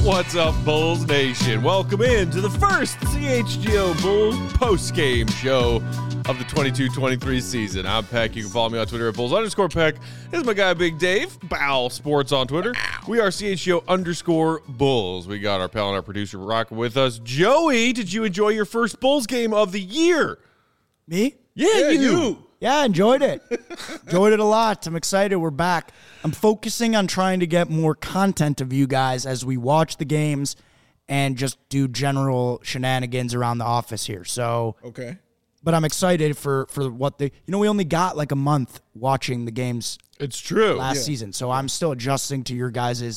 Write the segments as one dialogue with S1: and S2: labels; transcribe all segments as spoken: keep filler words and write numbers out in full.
S1: What's up, Bulls Nation? Welcome in to the first C H G O Bulls post-game show of the twenty-two twenty-three season. I'm Peck. You can follow me on Twitter at Bulls underscore Peck. This is my guy, Big Dave. Bow Sports on Twitter. We are C H G O underscore Bulls. We got our pal and our producer rocking with us. Joey, did you enjoy your first Bulls game of the year?
S2: Me?
S1: Yeah,
S2: yeah
S1: you.
S2: you. Yeah, I enjoyed it. enjoyed it a lot. I'm excited. We're back. I'm focusing on trying to get more content of you guys as we watch the games and just do general shenanigans around the office here. So,
S3: okay.
S2: But I'm excited for, for what they, you know, we only got like a month watching the games.
S1: It's true.
S2: Last
S3: yeah.
S2: season. So I'm still adjusting to your guys'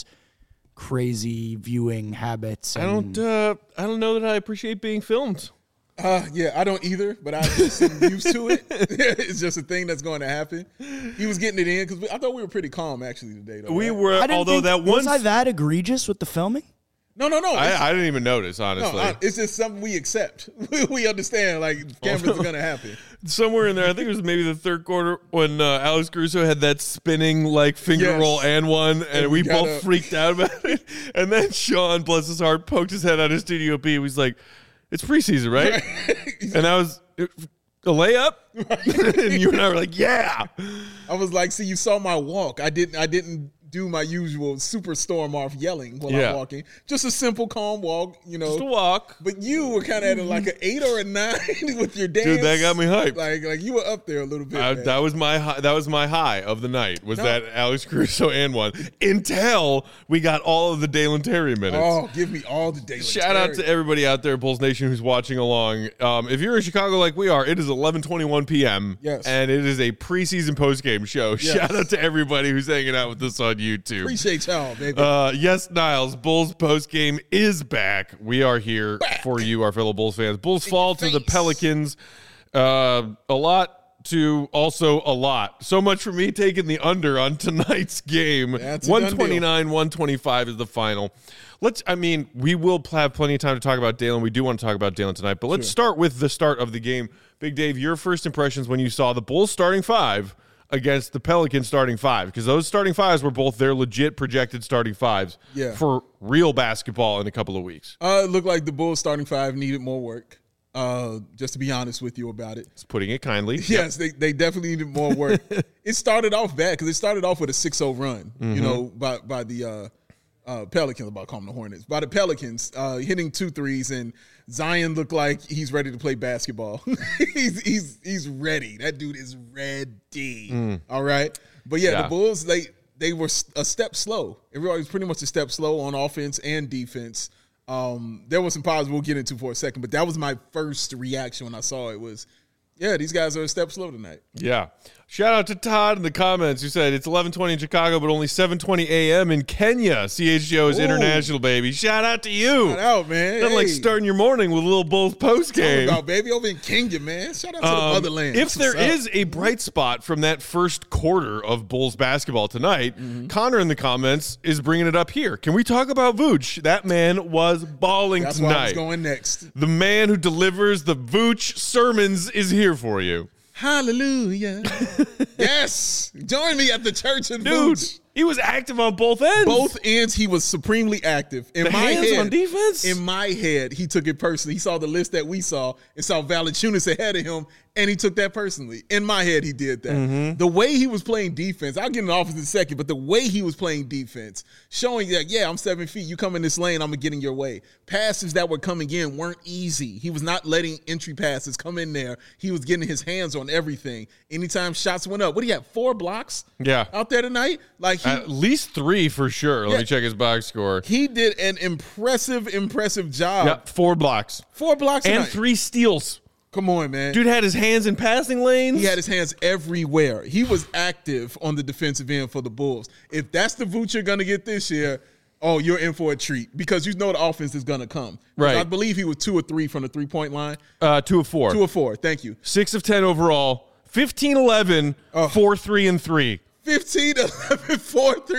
S2: crazy viewing habits.
S1: I don't, uh, I don't know that I appreciate being filmed.
S3: Uh, yeah, I don't either, but I'm just used to it. It's just a thing that's going to happen. He was getting it in because I thought we were pretty calm actually today. Though,
S1: We
S3: right?
S1: were,
S2: I didn't
S1: although
S2: think,
S1: that one.
S2: was I that egregious with the filming?
S3: No, no, no.
S1: I, I didn't even notice, honestly.
S3: No, I, it's just something we accept. we understand, like, cameras are going to happen.
S1: Somewhere in there, I think it was maybe the third quarter when uh, Alex Caruso had that spinning, like, finger
S3: Yes.
S1: roll and one, and,
S3: And
S1: we,
S3: we
S1: both
S3: gotta-
S1: freaked out about it. And then Sean, bless his heart, poked his head out of Studio B. He was like, it's preseason, right? And I was, a layup? And you and I were like, yeah.
S3: I was like, see, you saw my walk. I didn't I didn't do my usual super storm off yelling while
S1: Yeah.
S3: I'm walking. Just a simple, calm walk, you know.
S1: Just a walk.
S3: But you were kind of at like an eight or a nine with your dance.
S1: Dude, that got me hyped.
S3: Like, like you were up there a little bit.
S1: I,
S3: man.
S1: that was my high, that was my high of the night, was
S3: No.
S1: that Alex Caruso and one, until we got all of the Dalen Terry minutes.
S3: Oh, give me all the daily.
S1: Shout out to everybody out there, Bulls Nation, who's watching along. Um, if you're in Chicago like we are, it is eleven twenty-one p.m.
S3: Yes.
S1: And it is a preseason postgame show.
S3: Yes.
S1: Shout out to everybody who's hanging out with us on YouTube.
S3: Appreciate y'all, baby.
S1: Uh, yes, Niles, Bulls postgame is back. We are here
S3: Back.
S1: for you, our fellow Bulls fans. Bulls
S3: In
S1: fall
S3: your
S1: to the
S3: face.
S1: Pelicans. Uh, a lot to also a lot. So much for me taking the under on tonight's game.
S3: That's a done
S1: one twenty-nine, one twenty-five is the final. Let's, I mean, we will have plenty of time to talk about Dalen. We do want to talk about Dalen tonight, but let's
S3: Sure.
S1: start with the start of the game. Big Dave, your first impressions when you saw the Bulls starting five against the Pelicans starting five, because those starting fives were both their legit projected starting fives
S3: Yeah.
S1: for real basketball in a couple of weeks.
S3: Uh, it looked like the Bulls starting five needed more work. Uh, just to be honest with you about it.
S1: It's putting it kindly.
S3: Yes, they, they definitely needed more work. It started off bad because it started off with a six oh run,
S1: Mm-hmm.
S3: you know, by by the uh, uh, Pelicans, I'm about to call them the Hornets, by the Pelicans, uh, hitting two threes, and Zion looked like he's ready to play basketball. he's he's he's ready. That dude is ready. All right, but yeah,
S1: Yeah.
S3: the Bulls they they were a step slow. Everybody was pretty much a step slow on offense and defense. Um, there was some positives we'll get into for a second, but that was my first reaction when I saw it was, yeah, these guys are a step slow tonight.
S1: Yeah. Shout out to Todd in the comments who said it's eleven twenty in Chicago, but only seven twenty a.m. in Kenya. C H G O is
S3: Ooh.
S1: international, baby. Shout out to you.
S3: Shout out, man.
S1: Nothing like
S3: Hey.
S1: starting your morning with a little Bulls post
S3: Talking
S1: game.
S3: about, baby, over in Kenya, man. Shout out to the
S1: Um,
S3: motherland.
S1: if there
S3: What's up?
S1: is a bright spot from that first quarter of Bulls basketball tonight,
S3: Mm-hmm.
S1: Connor in the comments is bringing it up here. Can we talk about Vooch? That man was balling
S3: That's why I was
S1: tonight.
S3: going next.
S1: The man who delivers the Vooch sermons is here for you.
S3: Hallelujah. Yes. Join me at the church in
S1: Dude,
S3: Vooch.
S1: he was active on both ends.
S3: Both ends, he was supremely active. In
S1: The
S3: my
S1: hands
S3: head,
S1: on defense?
S3: In my head, he took it personally. He saw the list that we saw and saw Valanciunas ahead of him, and he took that personally. In my head, he did that.
S1: Mm-hmm.
S3: The way he was playing defense, I'll get in the office in a second, but the way he was playing defense, showing that, yeah, I'm seven feet. You come in this lane, I'm going to get in your way. Passes that were coming in weren't easy. He was not letting entry passes come in there. He was getting his hands on everything. Anytime shots went up, what do you have, four blocks
S1: Yeah.
S3: out there tonight? Like he,
S1: At least three for sure. Let
S3: Yeah.
S1: me check his box score.
S3: he did an impressive, impressive job.
S1: Yeah, four blocks.
S3: Four blocks
S1: And
S3: tonight.
S1: three steals.
S3: Come on, man.
S1: Dude had his hands in passing lanes.
S3: He had his hands everywhere. He was active on the defensive end for the Bulls. If that's the Vooch you're going to get this year, oh, you're in for a treat because you know the offense is going to come.
S1: Right.
S3: I believe he was two or three from the three-point line.
S1: uh, two of four.
S3: Two or four. Thank you.
S1: Six of ten overall. fifteen eleven,
S3: Oh.
S1: four three and three.
S3: fifteen, eleven, four, three. It,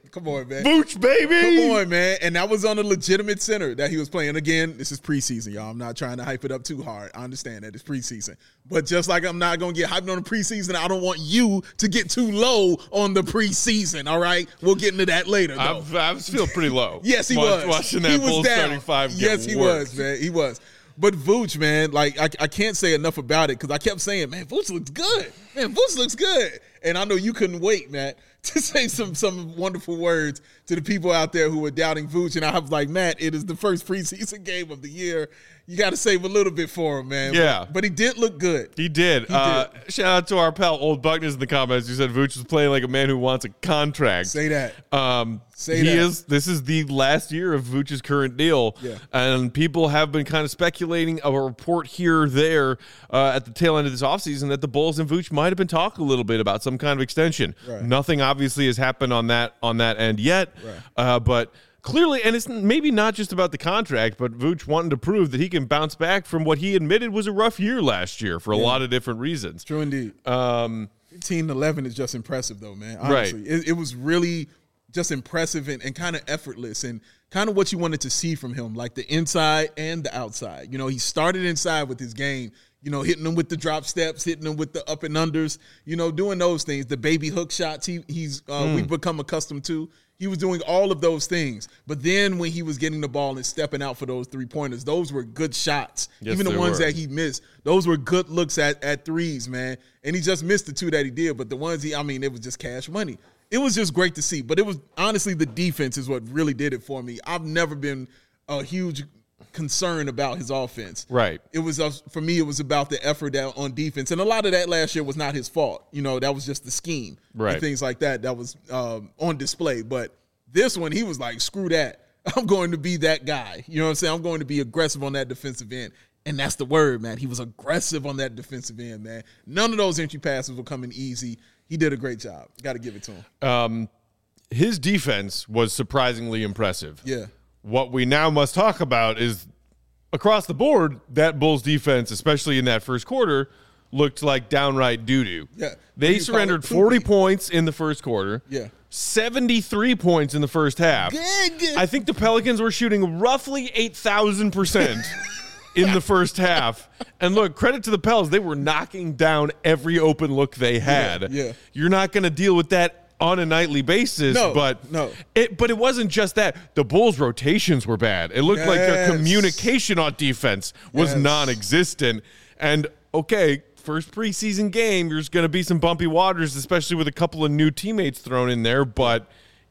S3: Come on, man.
S1: Vooch, baby.
S3: Come on, man. And that was on a legitimate center that he was playing. Again, this is preseason, y'all. I'm not trying to hype it up too hard. I understand that it's preseason. But just like I'm not going to get hyped on the preseason, I don't want you to get too low on the preseason, all right? We'll get into that later, though.
S1: I was feeling pretty low.
S3: Yes, he
S1: Watch,
S3: was.
S1: Watching that
S3: he was
S1: Bulls
S3: down.
S1: starting five get
S3: Yes, he
S1: worked.
S3: was, man. He was. But Vooch, man, like, I, I can't say enough about it because I kept saying, man, Vooch looks good. Man, Vooch looks good. And I know you couldn't wait, Matt, to say some some wonderful words to the people out there who were doubting Vooch. And I was like, Matt, it is the first preseason game of the year. You got to save a little bit for him, man.
S1: Yeah.
S3: But, but he did look good.
S1: He did.
S3: He
S1: uh,
S3: did.
S1: Shout out to our pal Old Buckness in the comments who said Vooch was playing like a man who wants a contract.
S3: Say that.
S1: Um,
S3: Say
S1: he
S3: that.
S1: is. This is the last year of Vooch's current deal,
S3: Yeah.
S1: and people have been kind of speculating a report here or there uh, at the tail end of this offseason that the Bulls and Vooch might have been talking a little bit about some kind of extension.
S3: Right.
S1: Nothing obviously has happened on that on that end yet,
S3: Right.
S1: uh, but. Clearly, and it's maybe not just about the contract, but Vooch wanting to prove that he can bounce back from what he admitted was a rough year last year for a
S3: Yeah.
S1: lot of different reasons.
S3: True indeed.
S1: Um,
S3: fifteen eleven is just impressive, though, man. Honestly.
S1: Right.
S3: It, it was really just impressive and, and kind of effortless and kind of what you wanted to see from him, like the inside and the outside. You know, he started inside with his game, you know, hitting them with the drop steps, hitting them with the up and unders, you know, doing those things, the baby hook shots he, he's uh,
S1: Mm.
S3: we've become accustomed to. He was doing all of those things. But then when he was getting the ball and stepping out for those three-pointers, those were good shots.
S1: Yes,
S3: Even the
S1: they
S3: ones
S1: were.
S3: that he missed, those were good looks at, at threes, man. And he just missed the two that he did. But the ones he, I mean, it was just cash money. It was just great to see. But it was, honestly, the defense is what really did it for me. I've never been a huge concern about his offense.
S1: Right.
S3: It was, uh, for me, it was about the effort that on defense. And a lot of that last year was not his fault. You know, that was just the scheme.
S1: Right.
S3: And things like that that was um, on display. But this one, he was like, screw that. I'm going to be that guy. You know what I'm saying? I'm going to be aggressive on that defensive end. And that's the word, man. He was aggressive on that defensive end, man. None of those entry passes were coming easy. He did a great job. Got to give it to him.
S1: um, his defense was surprisingly impressive.
S3: Yeah.
S1: What we now must talk about is across the board, that Bulls defense, especially in that first quarter, looked like downright doo-doo.
S3: Yeah.
S1: They
S3: You
S1: surrendered
S3: call it
S1: forty
S3: poopy.
S1: points in the first quarter.
S3: Yeah.
S1: seventy-three points in the first half.
S3: Good, good.
S1: I think the Pelicans were shooting roughly eight thousand percent in the first half. And look, credit to the Pels. They were knocking down every open look they had.
S3: yeah.
S1: You're not going to deal with that on a nightly basis,
S3: No,
S1: but
S3: no.
S1: It, but it wasn't just that. The Bulls' rotations were bad. It looked like their
S3: Yes.
S1: communication on defense was
S3: Yes.
S1: non-existent. And okay, first preseason game, there's going to be some bumpy waters, especially with a couple of new teammates thrown in there. But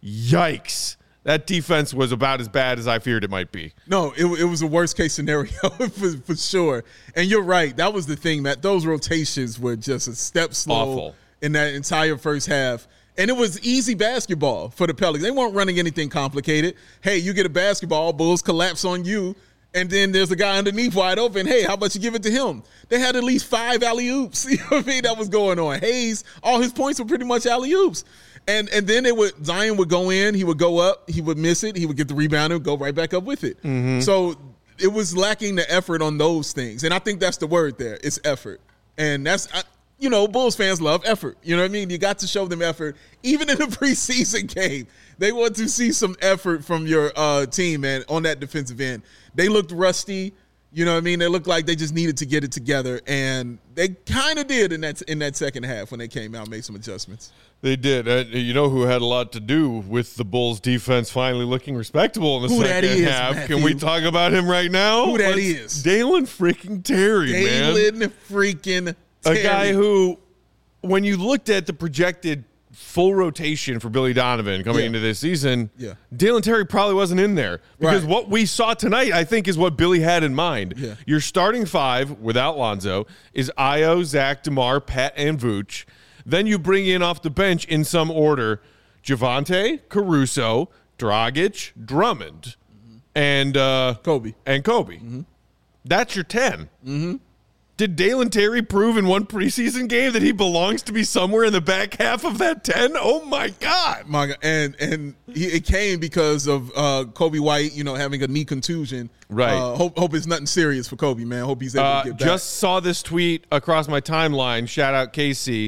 S1: yikes, that defense was about as bad as I feared it might be.
S3: No, it, it was a worst case scenario for, for sure. And you're right. That was the thing, Matt. Those rotations were just a step slow
S1: Awful.
S3: in that entire first half. And it was easy basketball for the Pelicans. They weren't running anything complicated. Hey, you get a basketball, Bulls collapse on you, and then there's a guy underneath wide open. Hey, how about you give it to him? They had at least five alley-oops. You know what I mean? That was going on. Hayes, all his points were pretty much alley-oops. And and then it would Zion would go in, he would go up, he would miss it, he would get the rebound and go right back up with it. So it was lacking the effort on those things. And I think that's the word there. It's effort. And that's I, you know, Bulls fans love effort. You know what I mean? You got to show them effort. Even in a preseason game, they want to see some effort from your uh, team, man, on that defensive end. They looked rusty. You know what I mean? They looked like they just needed to get it together, and they kind of did in that in that second half when they came out and made some adjustments.
S1: They did. Uh, you know who had a lot to do with the Bulls' defense finally looking respectable in the
S3: Who that
S1: second
S3: is,
S1: half?
S3: Matthew?
S1: Can we talk about him right now?
S3: Who that
S1: Let's-
S3: is?
S1: Dalen freaking Terry, man.
S3: Dalen freaking
S1: A
S3: Terry.
S1: guy who, when you looked at the projected full rotation for Billy Donovan coming
S3: Yeah.
S1: into this season,
S3: Yeah.
S1: Dalen Terry probably wasn't in there. Because
S3: Right.
S1: what we saw tonight, I think, is what Billy had in mind.
S3: Yeah.
S1: Your starting five, without Lonzo, is Io, Zach, DeMar, Pat, and Vooch. Then you bring in off the bench in some order Javante, Caruso, Dragic, Drummond,
S3: Mm-hmm.
S1: and uh,
S3: Kobe.
S1: and Kobe.
S3: Mm-hmm.
S1: That's your ten. Mm-hmm. Did Dalen Terry prove in one preseason game that he belongs to be somewhere in the back half of that ten? Oh, my God.
S3: My God. And and he, it came because of uh, Kobe White, you know, having a knee contusion.
S1: Right.
S3: Uh, hope hope it's nothing serious for Kobe, man. Hope he's able
S1: Uh,
S3: to get back.
S1: just saw this tweet across my timeline. Shout out Casey.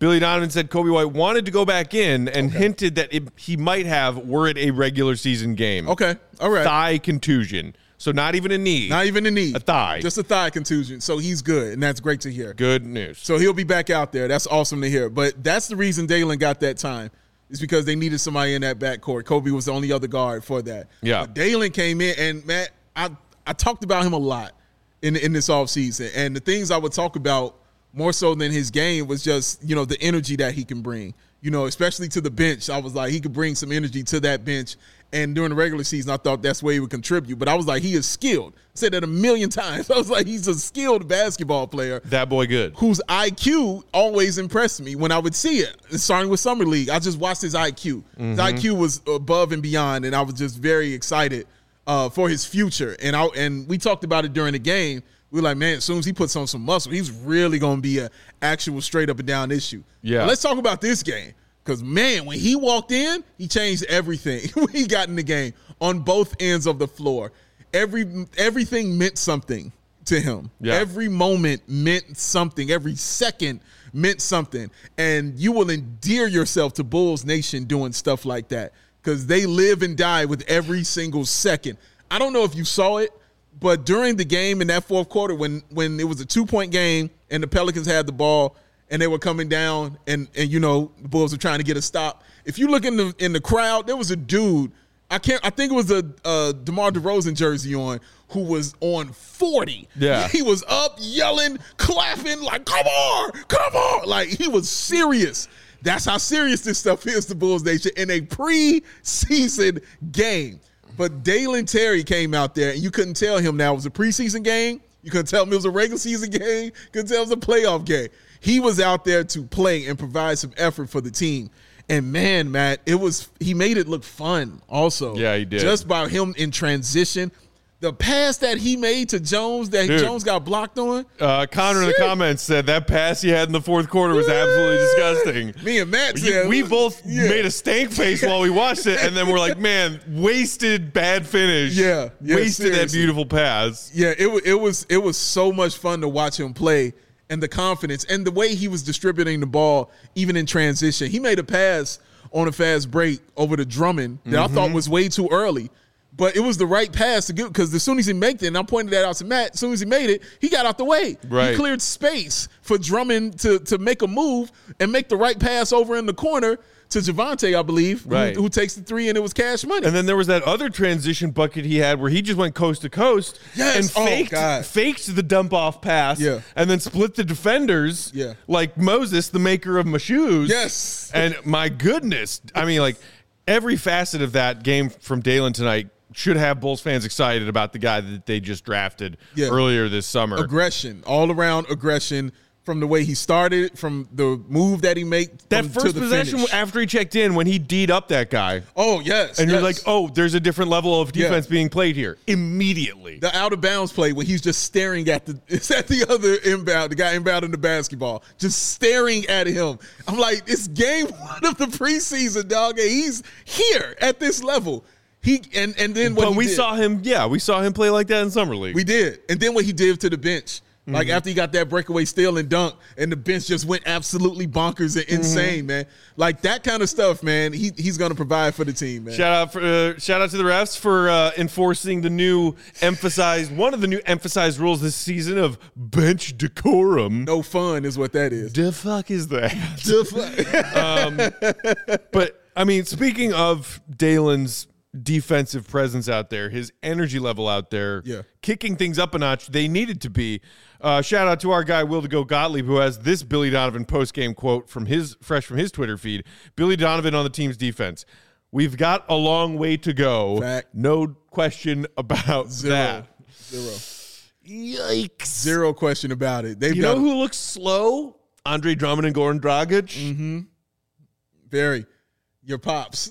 S1: Billy Donovan said Kobe White wanted to go back in and
S3: Okay.
S1: hinted that it, he might have were it a regular season game.
S3: Okay, all right.
S1: Thigh contusion. So not even a knee.
S3: Not even a knee.
S1: A thigh.
S3: Just a thigh contusion. So he's good, and that's great to hear.
S1: Good news.
S3: So he'll be back out there. That's awesome to hear. But that's the reason Dalen got that time. Is because they needed somebody in that backcourt. Kobe was the only other guard for that.
S1: Yeah.
S3: But Dalen came in, and, Matt, I, I talked about him a lot in, in this offseason. And the things I would talk about more so than his game was just, you know, the energy that he can bring. You know, especially to the bench. I was like, he could bring some energy to that bench. And during the regular season, I thought that's where he would contribute. But I was like, he is skilled. I said that a million times. I was like, he's a skilled basketball player.
S1: That boy good.
S3: Whose I Q always impressed me when I would see it. Starting with Summer League, I just watched his I Q.
S1: Mm-hmm.
S3: His I Q was above and beyond, and I was just very excited uh, for his future. And I and we talked about it during the game. We were like, man, as soon as he puts on some muscle, he's really going to be an actual straight up and down issue.
S1: Yeah.
S3: But let's talk about this game. Because, man, when he walked in, he changed everything when he got in the game on both ends of the floor. Every Everything meant something to him.
S1: Yeah.
S3: Every moment meant something. Every second meant something. And you will endear yourself to Bulls Nation doing stuff like that because they live and die with every single second. I don't know if you saw it, but during the game in that fourth quarter when, when it was a two-point game and the Pelicans had the ball, and they were coming down, and, and you know, the Bulls were trying to get a stop. If you look in the in the crowd, there was a dude, I can't I think it was a, a DeMar DeRozan jersey on, who was on forty.
S1: Yeah.
S3: He was up, yelling, clapping, like, come on, come on. Like, he was serious. That's how serious this stuff is to Bulls Nation in a preseason game. But Dalen Terry came out there, and you couldn't tell him now it was a preseason game. You couldn't tell him it was a regular season game. You couldn't tell him it was a playoff game. He was out there to play and provide some effort for the team. And, man, Matt, it was he made it look fun also.
S1: Yeah, he did.
S3: Just by him in transition. The pass that he made to Jones that
S1: Dude.
S3: Jones got blocked on.
S1: Uh, Connor in the comments said that pass he had in the fourth quarter was absolutely disgusting.
S3: Me and Matt
S1: You-
S3: said.
S1: we both
S3: yeah.
S1: made a stank face while we watched it, and then we're like, man, wasted bad finish.
S3: Yeah, yeah,
S1: wasted that
S3: seriously.
S1: beautiful pass.
S3: Yeah, it, wa- it was it was so much fun to watch him play and the confidence and the way he was distributing the ball even in transition. He made a pass on a fast break over to Drummond that
S1: Mm-hmm.
S3: I thought was way too early. But it was the right pass to get because as soon as he made it, and I pointed that out to Matt, as soon as he made it, he got out the way.
S1: Right.
S3: He cleared space for Drummond to, to make a move and make the right pass over in the corner to Javante, I believe,
S1: Right.
S3: who, who takes the three, and it was cash money.
S1: And then there was that other transition bucket he had where he just went coast to coast
S3: Yes.
S1: and
S3: Oh,
S1: faked,
S3: God.
S1: faked the dump off pass
S3: Yeah.
S1: and then split the defenders
S3: Yeah.
S1: like Moses, the maker of my shoes.
S3: Yes.
S1: And my goodness, I mean, like every facet of that game from Dalen tonight should have Bulls fans excited about the guy that they just drafted
S3: Yeah.
S1: earlier this summer.
S3: Aggression, all around aggression from the way he started, from the move that he made.
S1: That
S3: from,
S1: first
S3: to the
S1: possession
S3: finish.
S1: after he checked in when he D'd up that guy.
S3: Oh, yes.
S1: And you're
S3: yes.
S1: like, oh, there's a different level of
S3: Yeah.
S1: defense being played here immediately.
S3: The out of bounds play when he's just staring at the it's at the other inbound, the guy inbounding the basketball, just staring at him. I'm like, it's game one of the preseason, dog, and he's here at this level. He and and then what
S1: But
S3: he
S1: we
S3: did,
S1: saw him, yeah, we saw him play like that in summer league.
S3: we did, and then what he did to the bench. Like
S1: Mm-hmm.
S3: after he got that breakaway steal and dunk, and the bench just went absolutely bonkers and insane,
S1: Mm-hmm.
S3: man. Like that kind of stuff, man. He he's gonna provide for the team, man.
S1: Shout out for uh, shout out to the refs for uh, enforcing the new emphasized one of the new emphasized rules this season of bench decorum.
S3: No fun is what that is.
S1: The fuck is that?
S3: The fuck?
S1: But I mean, speaking of Dalen's defensive presence out there, his energy level out there,
S3: Yeah.
S1: kicking things up a notch, they needed to be. Uh, shout out to our guy Will to Go Gottlieb, who has this Billy Donovan post game quote from his fresh from his Twitter feed. Billy Donovan on the team's defense. We've got a long way to go.
S3: Fact.
S1: No question about
S3: Zero.
S1: that.
S3: Zero.
S1: Yikes.
S3: Zero question about it. They've
S1: You
S3: got
S1: know who looks slow? Andre Drummond and Goran Dragic.
S3: Mm-hmm. very your pops.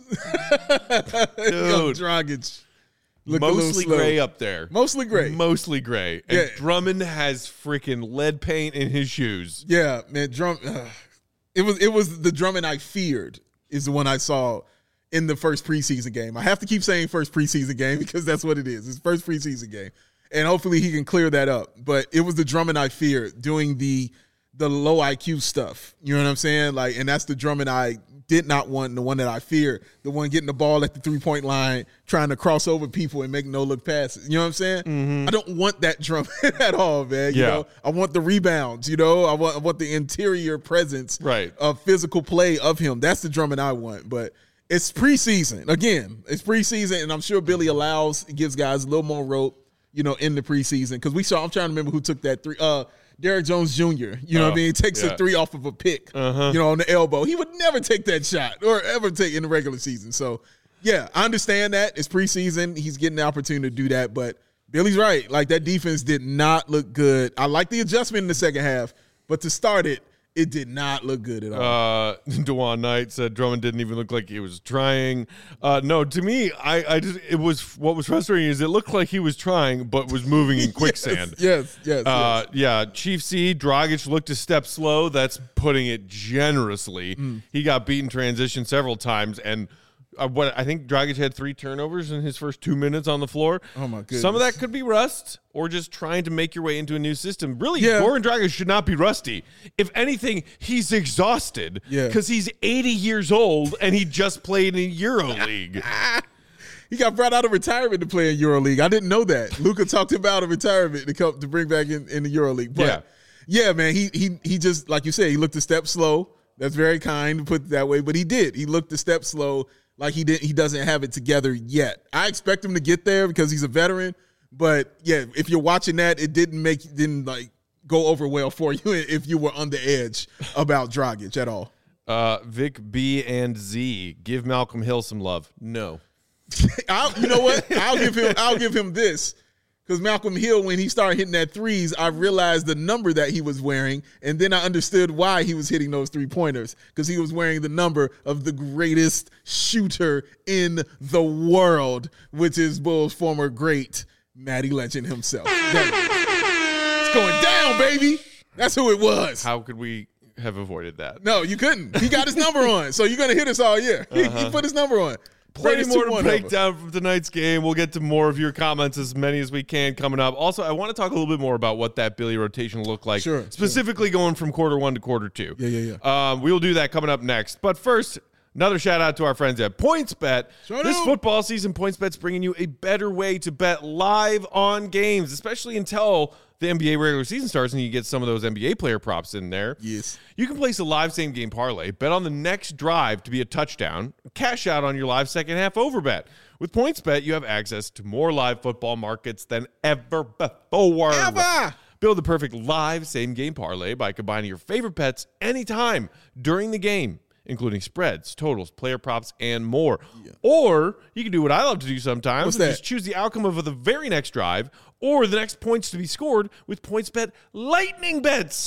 S3: Yo, Dragic. Look a little
S1: Mostly
S3: slow.
S1: gray up there.
S3: Mostly gray.
S1: Mostly gray. And
S3: Yeah.
S1: Drummond has freaking lead paint in his shoes.
S3: Yeah, man. Drum. Uh, it was it was the Drummond I feared is the one I saw in the first preseason game. I have to keep saying first preseason game because that's what it is. It's first preseason game, and hopefully he can clear that up. But it was the Drummond I feared doing the the low I Q stuff. You know what I'm saying? Like, and that's the Drummond I did not want, and the one that I fear, the one getting the ball at the three-point line, trying to cross over people and make no-look passes. You know what I'm saying? Mm-hmm. I don't want that Drummond at all, man. You
S1: Yeah.
S3: know, I want the rebounds. You know, I want I want the interior presence
S1: Right.
S3: of physical play of him. That's the Drummond I want. But it's preseason. Again, it's preseason, and I'm sure Billy allows, gives guys a little more rope, you know, in the preseason. Because we saw, I'm trying to remember who took that three. Uh, Derrick Jones Junior You know
S1: Oh,
S3: what I mean? He takes
S1: yeah.
S3: a three off of a pick,
S1: Uh-huh.
S3: you know, on the elbow. He would never take that shot or ever take in the regular season. So, yeah, I understand that. It's preseason. He's getting the opportunity to do that. But Billy's right. Like, that defense did not look good. I like the adjustment in the second half, but to start it, it did not look good at all.
S1: Uh, DeJuan Knight said Drummond didn't even look like he was trying. Uh, no, to me, I, I just it was what was frustrating is it looked like he was trying, but was moving in quicksand.
S3: Yes, yes, yes.
S1: Uh, yeah, Chief C, Dragic looked a step slow. That's putting it generously.
S3: Mm.
S1: He got beaten transition several times, and uh, what I think Dragic had three turnovers in his first two minutes on the floor.
S3: Oh, my goodness.
S1: Some of that could be rust or just trying to make your way into a new system. Really,
S3: Yeah.
S1: Goran Dragic should not be rusty. If anything, he's exhausted
S3: Yeah.
S1: because he's eighty years old and he just played in EuroLeague.
S3: He got brought out of retirement to play in EuroLeague. I didn't know that. Luka talked about a retirement to come to bring back in, in the EuroLeague. But yeah. yeah, man, he he he just, like you said, he looked a step slow. That's very kind to put it that way, but he did. He looked a step slow, like he did. He doesn't have it together yet. I expect him to get there because he's a veteran. But yeah, if you're watching that, it didn't make didn't like go over well for you if you were on the edge about Dragic at all.
S1: Uh, Vic B and Z, give Malcolm Hill some love. No.
S3: I'll, you know what? I'll give him. I'll give him this, because Malcolm Hill, when he started hitting that threes, I realized the number that he was wearing, and then I understood why he was hitting those three pointers, because he was wearing the number of the greatest shooter in the world, which is Bulls' former great Matty Legend himself. It's going down, baby. That's who it was.
S1: How could we have avoided that?
S3: No, you couldn't. He got his number on, so you're gonna hit us all year.
S1: Uh-huh.
S3: He put his number on.
S1: Plenty
S3: Greatest
S1: more
S3: two
S1: to
S3: one
S1: break
S3: ever.
S1: down from tonight's game. We'll get to more of your comments, as many as we can, coming up. Also, I want to talk a little bit more about what that Billy rotation looked like,
S3: Sure,
S1: specifically going from quarter one to quarter two.
S3: Yeah, yeah, yeah.
S1: Um, we will do that coming up next. But first, another shout out to our friends at PointsBet.
S3: Sure
S1: this
S3: do.
S1: football season, PointsBet's bringing you a better way to bet live on games, especially until the N B A regular season starts and you get some of those N B A player props in there.
S3: Yes.
S1: You can place a live same game parlay, bet on the next drive to be a touchdown, cash out on your live second half over bet. With PointsBet, you have access to more live football markets than ever before.
S3: Ever.
S1: Build the perfect live same game parlay by combining your favorite bets anytime during the game, including spreads, totals, player props, and more. Yeah. Or you can do what I love to do sometimes,
S3: What's
S1: which
S3: that?
S1: is choose the outcome of the very next drive or the next points to be scored with PointsBet lightning bets.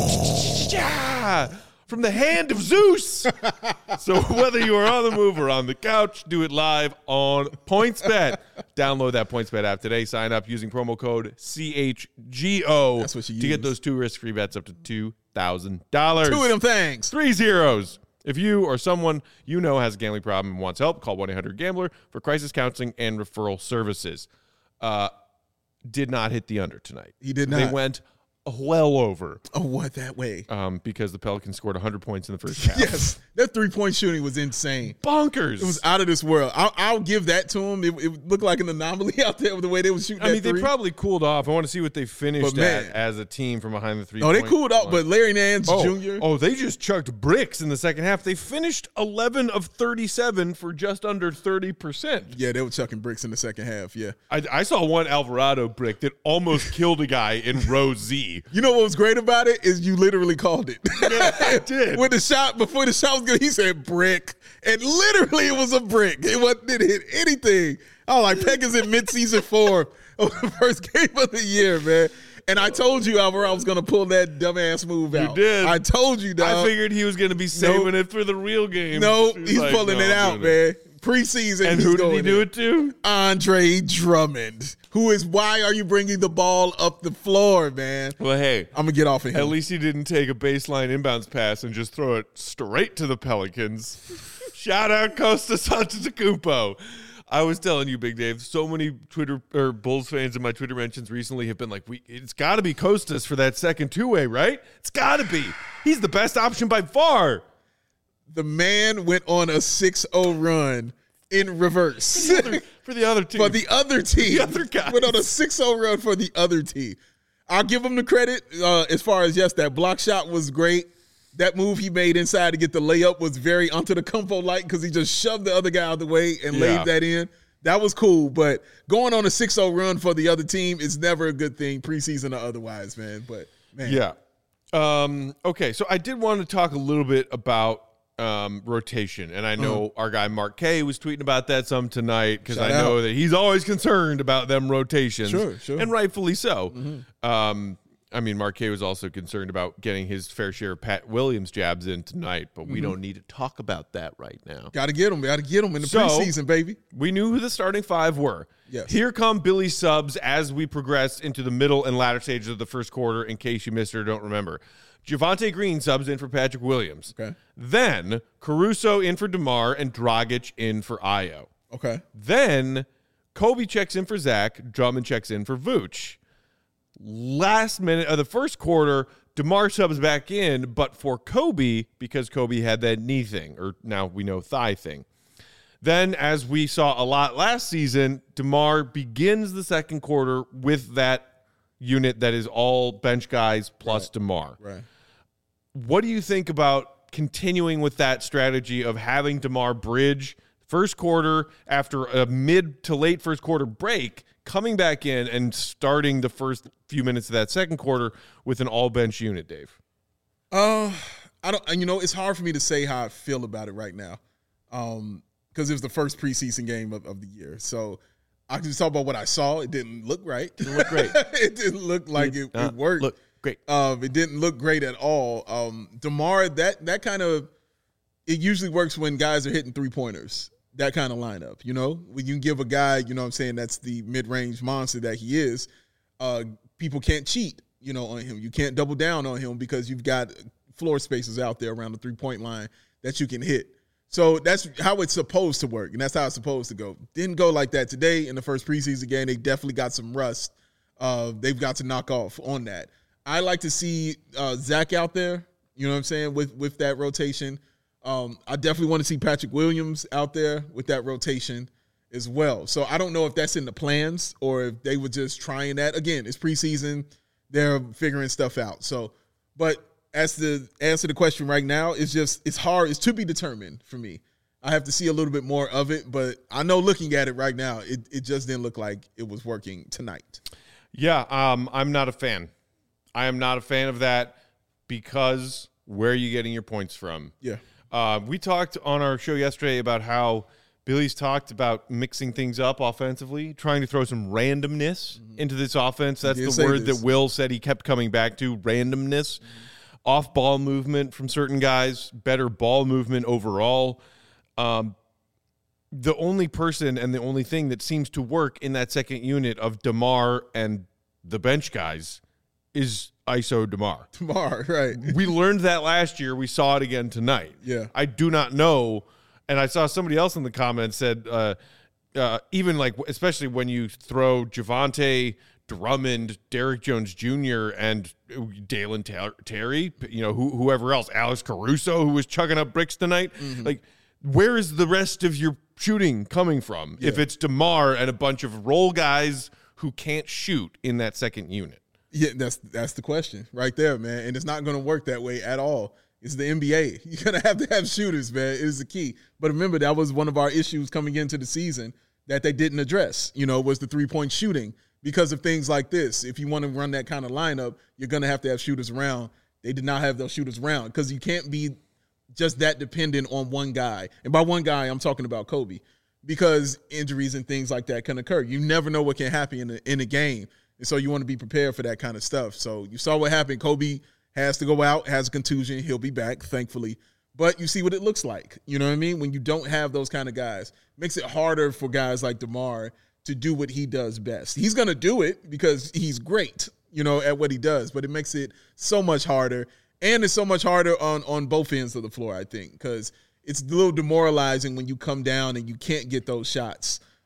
S1: Yeah! From the hand of Zeus. So whether you are on the move or on the couch, do it live on PointsBet. Download that PointsBet app today. Sign up using promo code C H G O
S3: That's what you
S1: to get
S3: use.
S1: those two risk-free bets up to two thousand dollars.
S3: Two of them things.
S1: Three zeros. If you or someone you know has a gambling problem and wants help, call one eight hundred gambler for crisis counseling and referral services. Uh, did not hit the under tonight.
S3: He did
S1: They
S3: not.
S1: went well over
S3: Oh, what that way?
S1: um, because the Pelicans scored one hundred points in the first half.
S3: Yes, that three-point shooting was insane.
S1: Bonkers.
S3: It was out of this world. I'll, I'll give that to him. It, it looked like an anomaly out there with the way they were shooting.
S1: I mean,
S3: that
S1: they
S3: three.
S1: probably cooled off. I want to see what they finished
S3: But, man.
S1: at as a team from behind the three.
S3: Oh, they cooled off, but Larry Nance
S1: oh,
S3: Junior
S1: Oh, they just chucked bricks in the second half. They finished eleven of thirty-seven for just under thirty percent.
S3: Yeah, they were chucking bricks in the second half. Yeah.
S1: I, I saw one Alvarado brick that almost killed a guy in row Z.
S3: You know what was great about it is you literally called it.
S1: Yeah, I did.
S3: When the shot, before the shot was good, he said brick. And literally it was a brick. It wasn't, didn't hit anything. I was like, Peck is in mid-season form of the first game of the year, man. And I told you, Alvaro, I was going to pull that dumbass move out.
S1: You did.
S3: I told you, dog.
S1: I figured he was going to be saving
S3: Nope.
S1: it for the real game.
S3: No,
S1: He was
S3: he's
S1: like,
S3: pulling
S1: "No,
S3: it
S1: I'm
S3: out,
S1: doing
S3: man. Preseason,
S1: And
S3: he's
S1: who did he
S3: going
S1: do
S3: in.
S1: it to?
S3: Andre Drummond, who is, why are you bringing the ball up the floor, man?
S1: Well, hey,
S3: I'm going to get off of him.
S1: at least he didn't take a baseline inbounds pass and just throw it straight to the Pelicans. Shout out Kostas Antetokounmpo. I was telling you, Big Dave, so many Twitter or Bulls fans in my Twitter mentions recently have been like, "We, it's got to be Kostas for that second two-way, right? It's got to be. He's the best option by far."
S3: The man went on a six oh run in reverse.
S1: For the other, for the other team.
S3: For the other team.
S1: The other guys.
S3: Went on a six oh run for the other team. I'll give him the credit uh, as far as, yes, that block shot was great. That move he made inside to get the layup was very Antetokounmpo-like because he just shoved the other guy out of the way and
S1: Yeah.
S3: laid that in. That was cool, but going on a six oh run for the other team is never a good thing, preseason or otherwise, man. But, man.
S1: Yeah. Um, okay, so I did want to talk a little bit about um, rotation, and I know
S3: Uh-huh.
S1: our guy Mark K was tweeting about that some tonight because I
S3: Shout
S1: know
S3: out.
S1: that he's always concerned about them rotations.
S3: Sure, sure.
S1: And rightfully so. Um, I mean, Mark K was also concerned about getting his fair share of Pat Williams jabs in tonight, but we don't need to talk about that right now.
S3: Got to get him. Got to get him in the
S1: So-
S3: preseason, baby.
S1: We knew who the starting five were.
S3: Yes.
S1: Here come Billy's subs as we progress into the middle and latter stages of the first quarter, in case you missed it or don't remember. Javonte Green subs in for Patrick Williams.
S3: Okay.
S1: Then Caruso in for DeMar and Dragic in for Ayo.
S3: Okay.
S1: Then Kobe checks in for Zach. Drummond checks in for Vooch. Last minute of the first quarter, DeMar subs back in, but for Kobe, because Kobe had that knee thing, or now we know thigh thing. Then, as we saw a lot last season, DeMar begins the second quarter with that unit that is all bench guys plus
S3: Right.
S1: DeMar.
S3: Right.
S1: What do you think about continuing with that strategy of having DeMar bridge first quarter after a mid to late first quarter break, coming back in and starting the first few minutes of that second quarter with an all bench unit, Dave?
S3: Uh, I don't. You know, it's hard for me to say how I feel about it right now, um, because it was the first preseason game of, of the year. So I can just talk about what I saw. It didn't look right.
S1: Didn't look great.
S3: It didn't look like it,
S1: Uh,
S3: it worked.
S1: Look great.
S3: Um, it didn't look great at all. Um, DeMar, that that kind of it usually works when guys are hitting three pointers. That kind of lineup, you know, when you can give a guy, you know what I'm saying, that's the mid-range monster that he is, uh, people can't cheat, you know, on him. You can't double down on him because you've got floor spaces out there around the three-point line that you can hit. So that's how it's supposed to work, and that's how it's supposed to go. Didn't go like that today in the first preseason game. They definitely got some rust. Uh, they've got to knock off on that. I like to see uh, Zach out there, you know what I'm saying, with, with that rotation. Um, I definitely want to see Patrick Williams out there with that rotation as well. So I don't know if that's in the plans or if they were just trying that. Again, it's preseason. They're figuring stuff out. So, but as to answer the question right now, it's just, it's hard. It's to be determined for me. I have to see a little bit more of it, but I know looking at it right now, it, it just didn't look like it was working tonight.
S1: Yeah, um, I'm not a fan. I am not a fan of that because where are you getting your points from?
S3: Yeah.
S1: Uh, we talked on our show yesterday about how Billy's talked about mixing things up offensively, trying to throw some randomness mm-hmm. into this offense. That's
S3: did
S1: the
S3: say
S1: word
S3: this.
S1: that Will said he kept coming back to, randomness. Mm-hmm. Off-ball movement from certain guys, better ball movement overall. Um, the only person and the only thing that seems to work in that second unit of DeMar and the bench guys is I S O DeMar.
S3: DeMar, right.
S1: We learned that last year. We saw it again tonight.
S3: Yeah.
S1: I do not know. And I saw somebody else in the comments said, uh, uh, even like, especially when you throw Javonte, Drummond, Derrick Jones Junior, and Dalen Ter- Terry, you know, who, whoever else, Alex Caruso, who was chugging up bricks tonight. Mm-hmm. Like, where is the rest of your shooting coming from? Yeah. If it's DeMar and a bunch of role guys who can't shoot in that second unit.
S3: Yeah, that's that's the question right there, man. And it's not going to work that way at all. It's the N B A. You're going to have to have shooters, man. It is the key. But remember, that was one of our issues coming into the season that they didn't address, you know, was the three-point shooting because of things like this. If you want to run that kind of lineup, you're going to have to have shooters around. They did not have those shooters around because you can't be just that dependent on one guy. And by one guy, I'm talking about Kobe because injuries and things like that can occur. You never know what can happen in a, in a game. And so you want to be prepared for that kind of stuff. So you saw what happened. Kobe has to go out, has a contusion. He'll be back, thankfully. But you see what it looks like. You know what I mean? When you don't have those kind of guys, it makes it harder for guys like DeMar to do what he does best. He's going to do it because he's great, you know, at what he does. But it makes it so much harder. And it's so much harder on, on both ends of the floor, I think, because it's a little demoralizing when you come down and you can't get those shots.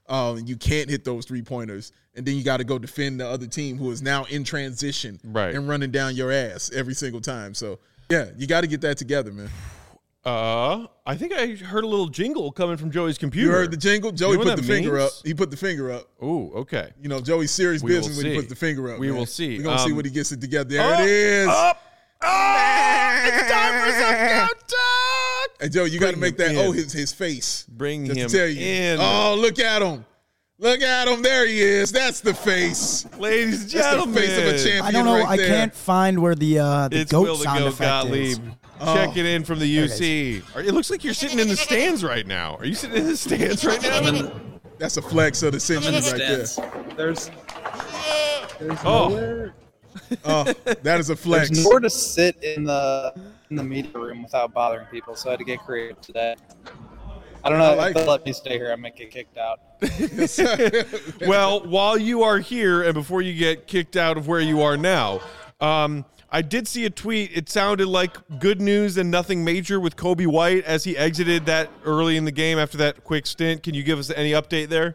S3: Um, you can't hit those three pointers, and then you got to go defend the other team who is now in transition
S1: right.
S3: and running down your ass every single time. So yeah, you got to get that together, man.
S1: Uh, I think I heard a little jingle coming from Joey's computer.
S3: You heard the jingle? Joey
S1: you know
S3: put the finger
S1: means?
S3: up. He put the finger up.
S1: Ooh, okay.
S3: You know, Joey's serious
S1: We
S3: business
S1: will
S3: when he
S1: see.
S3: puts the finger up.
S1: We
S3: man.
S1: will see.
S3: We're going to
S1: Um,
S3: see what he gets it together. There
S1: up,
S3: it is.
S1: Up, up. It's time for some countdown.
S3: Hey, Joe, you got to
S1: Bring
S3: make that,
S1: him
S3: oh,
S1: in.
S3: his, his face.
S1: Bring
S3: Just
S1: him
S3: to tell you.
S1: in.
S3: Oh, look at him. Look at him. There he is. That's the face.
S1: Ladies and
S3: That's
S1: gentlemen.
S3: the face of a champion.
S2: I don't know.
S3: Right
S2: I
S3: there.
S2: can't find where the uh, the
S1: It's
S2: goat
S1: Will the
S2: sound
S1: Goat
S2: effect is.
S1: Gottlieb. Checking in from the U C. Are- It looks like you're sitting in the stands right now. Are you sitting in the stands right now?
S4: I'm in the,
S3: That's a flex of the
S4: I'm
S3: century
S4: in the
S3: right
S4: stands.
S3: there.
S4: There's, there's
S1: Oh.
S4: nowhere.
S3: Oh, that is a flex.
S4: There's nowhere to sit in the in the media room without bothering people, so I had to get creative today. I don't know
S3: I like
S4: if they'll
S3: it.
S4: let me stay here. I might get kicked out.
S1: Well, while you are here and before you get kicked out of where you are now, um, I did see a tweet. It sounded like good news and nothing major with Kobe White as he exited that early in the game after that quick stint. Can you give us any update there?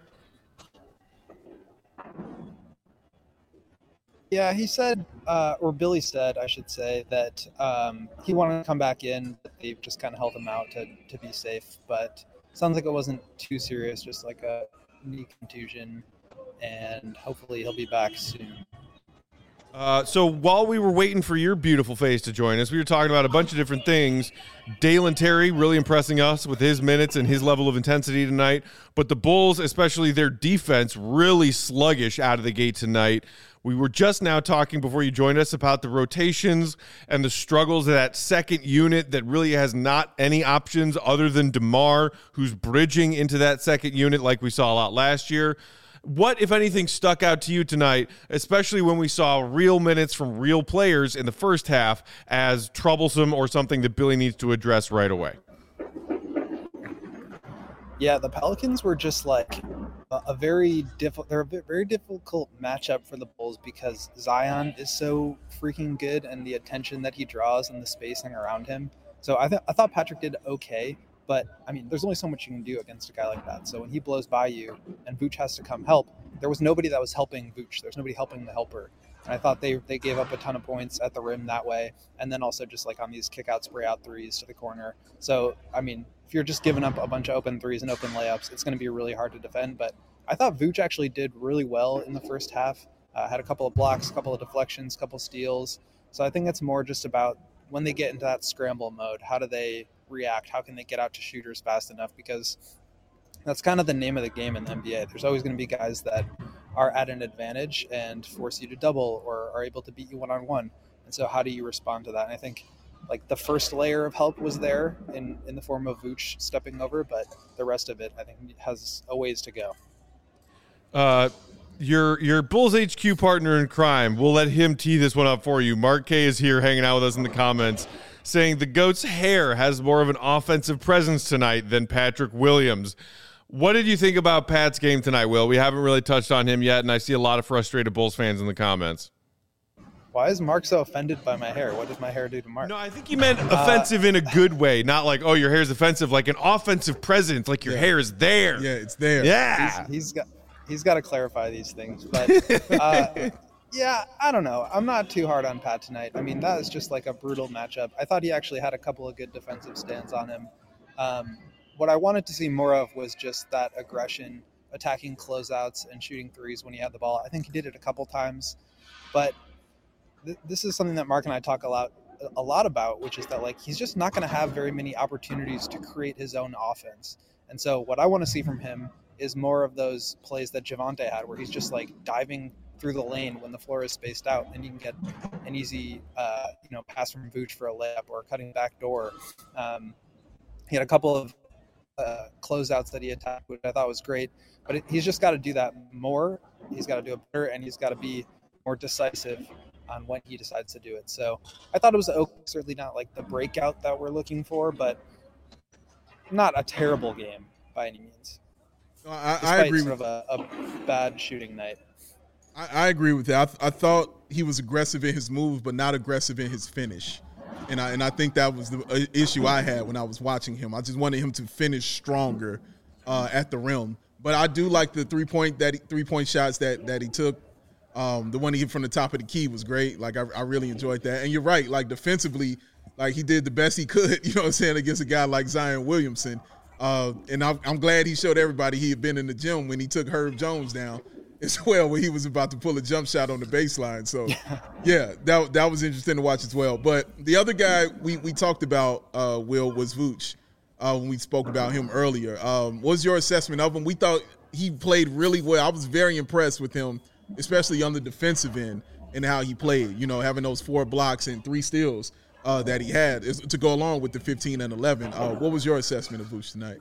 S4: Yeah, he said, uh, or Billy said, I should say, that um, he wanted to come back in, but they just kind of held him out to, to be safe. But sounds like it wasn't too serious, just like a knee contusion, and hopefully he'll be back soon.
S1: Uh, so while we were waiting for your beautiful face to join us, we were talking about a bunch of different things. Dalen Terry really impressing us with his minutes and his level of intensity tonight. But the Bulls, especially their defense, really sluggish out of the gate tonight. We were just now talking before you joined us about the rotations and the struggles of that second unit that really has not any options other than DeMar, who's bridging into that second unit like we saw a lot last year. What, if anything, stuck out to you tonight, especially when we saw real minutes from real players in the first half as troublesome or something that Billy needs to address right away?
S4: Yeah, the Pelicans were just like a, a very difficult. They're a bit- very difficult matchup for the Bulls because Zion is so freaking good, and the attention that he draws and the spacing around him. So I th- I thought Patrick did okay, but I mean, there's only so much you can do against a guy like that. So when he blows by you and Vooch has to come help, there was nobody that was helping Vooch. There's nobody helping the helper. And I thought they they gave up a ton of points at the rim that way, and then also just like on these kick out, spray out threes to the corner. So I mean, if you're just giving up a bunch of open threes and open layups, it's going to be really hard to defend. But I thought Vooch actually did really well in the first half. Uh, had a couple of blocks, a couple of deflections, a couple of steals. So I think it's more just about when they get into that scramble mode, how do they react? How can they get out to shooters fast enough? Because that's kind of the name of the game in the N B A. There's always going to be guys that are at an advantage and force you to double or are able to beat you one-on-one. And so how do you respond to that? And I think like the first layer of help was there in, in the form of Vooch stepping over, but the rest of it, I think, has a ways to go.
S1: Uh, your your Bulls H Q partner in crime, we'll let him tee this one up for you. Mark K is here hanging out with us in the comments saying the GOAT's hair has more of an offensive presence tonight than Patrick Williams. What did you think about Pat's game tonight, Will? We haven't really touched on him yet, and I see a lot of frustrated Bulls fans in the comments.
S4: Why is Mark so offended by my hair? What does my hair do to Mark?
S1: No, I think he meant offensive uh, in a good way, not like, oh, your hair's offensive, like an offensive presence, like your
S3: yeah.
S1: hair is there.
S3: Yeah, it's there.
S1: Yeah.
S4: He's, he's got he's got to clarify these things. But, uh, yeah, I don't know. I'm not too hard on Pat tonight. I mean, that is just like a brutal matchup. I thought he actually had a couple of good defensive stands on him. Um, what I wanted to see more of was just that aggression, attacking closeouts and shooting threes when he had the ball. I think he did it a couple times. But th- this is something that Mark and I talk a lot a lot about, which is that like he's just not going to have very many opportunities to create his own offense. And so what I want to see from him is more of those plays that Javonte had, where he's just like diving through the lane when the floor is spaced out, and you can get an easy, uh, you know, pass from Vooch for a layup or cutting back door. Um, he had a couple of uh, closeouts that he attacked, which I thought was great. But it, he's just got to do that more. He's got to do it better, and he's got to be more decisive on when he decides to do it. So I thought it was okay. Certainly not like the breakout that we're looking for, but not a terrible game by any means.
S3: I, I agree
S4: sort
S3: with
S4: of a, a bad shooting night.
S3: I, I agree with that. I, th- I thought he was aggressive in his moves, but not aggressive in his finish. And I and I think that was the uh, issue I had when I was watching him. I just wanted him to finish stronger uh, at the rim. But I do like the three point that he, three point shots that that he took. Um, the one he hit from the top of the key was great. Like I, I really enjoyed that. And you're right. Like defensively, like he did the best he could. You know what I'm saying, against a guy like Zion Williamson. Uh, and I'm, I'm glad he showed everybody he had been in the gym when he took Herb Jones down as well, when he was about to pull a jump shot on the baseline. So, yeah, that that was interesting to watch as well. But the other guy we we talked about, uh, Will, was Vooch. Uh, when we spoke about him earlier, um, what was your assessment of him? We thought he played really well. I was very impressed with him, especially on the defensive end and how he played. You know, having those four blocks and three steals uh, that he had is, to go along with the fifteen and eleven. Uh, what was your assessment of Vooch tonight?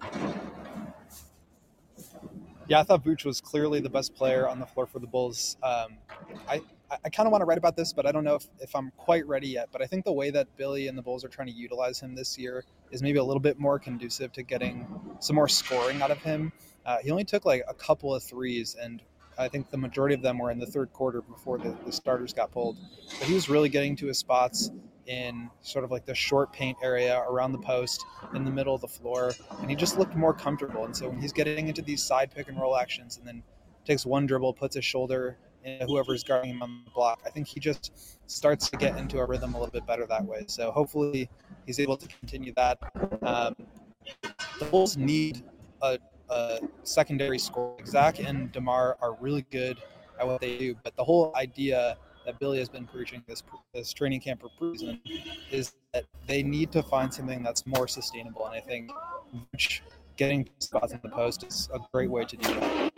S4: Yeah, I thought Vooch was clearly the best player on the floor for the Bulls. Um, I, I kind of want to write about this, but I don't know if, if I'm quite ready yet. But I think the way that Billy and the Bulls are trying to utilize him this year is maybe a little bit more conducive to getting some more scoring out of him. Uh, he only took like a couple of threes, and I think the majority of them were in the third quarter before the, the starters got pulled. But he was really getting to his spots in sort of like the short paint area around the post in the middle of the floor, and he just looked more comfortable. And so when he's getting into these side pick and roll actions and then takes one dribble, puts his shoulder in whoever's guarding him on the block, I think he just starts to get into a rhythm a little bit better that way. So hopefully he's able to continue that. Um, the Bulls need a, a secondary scorer. Zach and DeMar are really good at what they do, but the whole idea that Billy has been preaching this this training camp for preseason is that they need to find something that's more sustainable. And I think getting spots in the post is a great way to do that.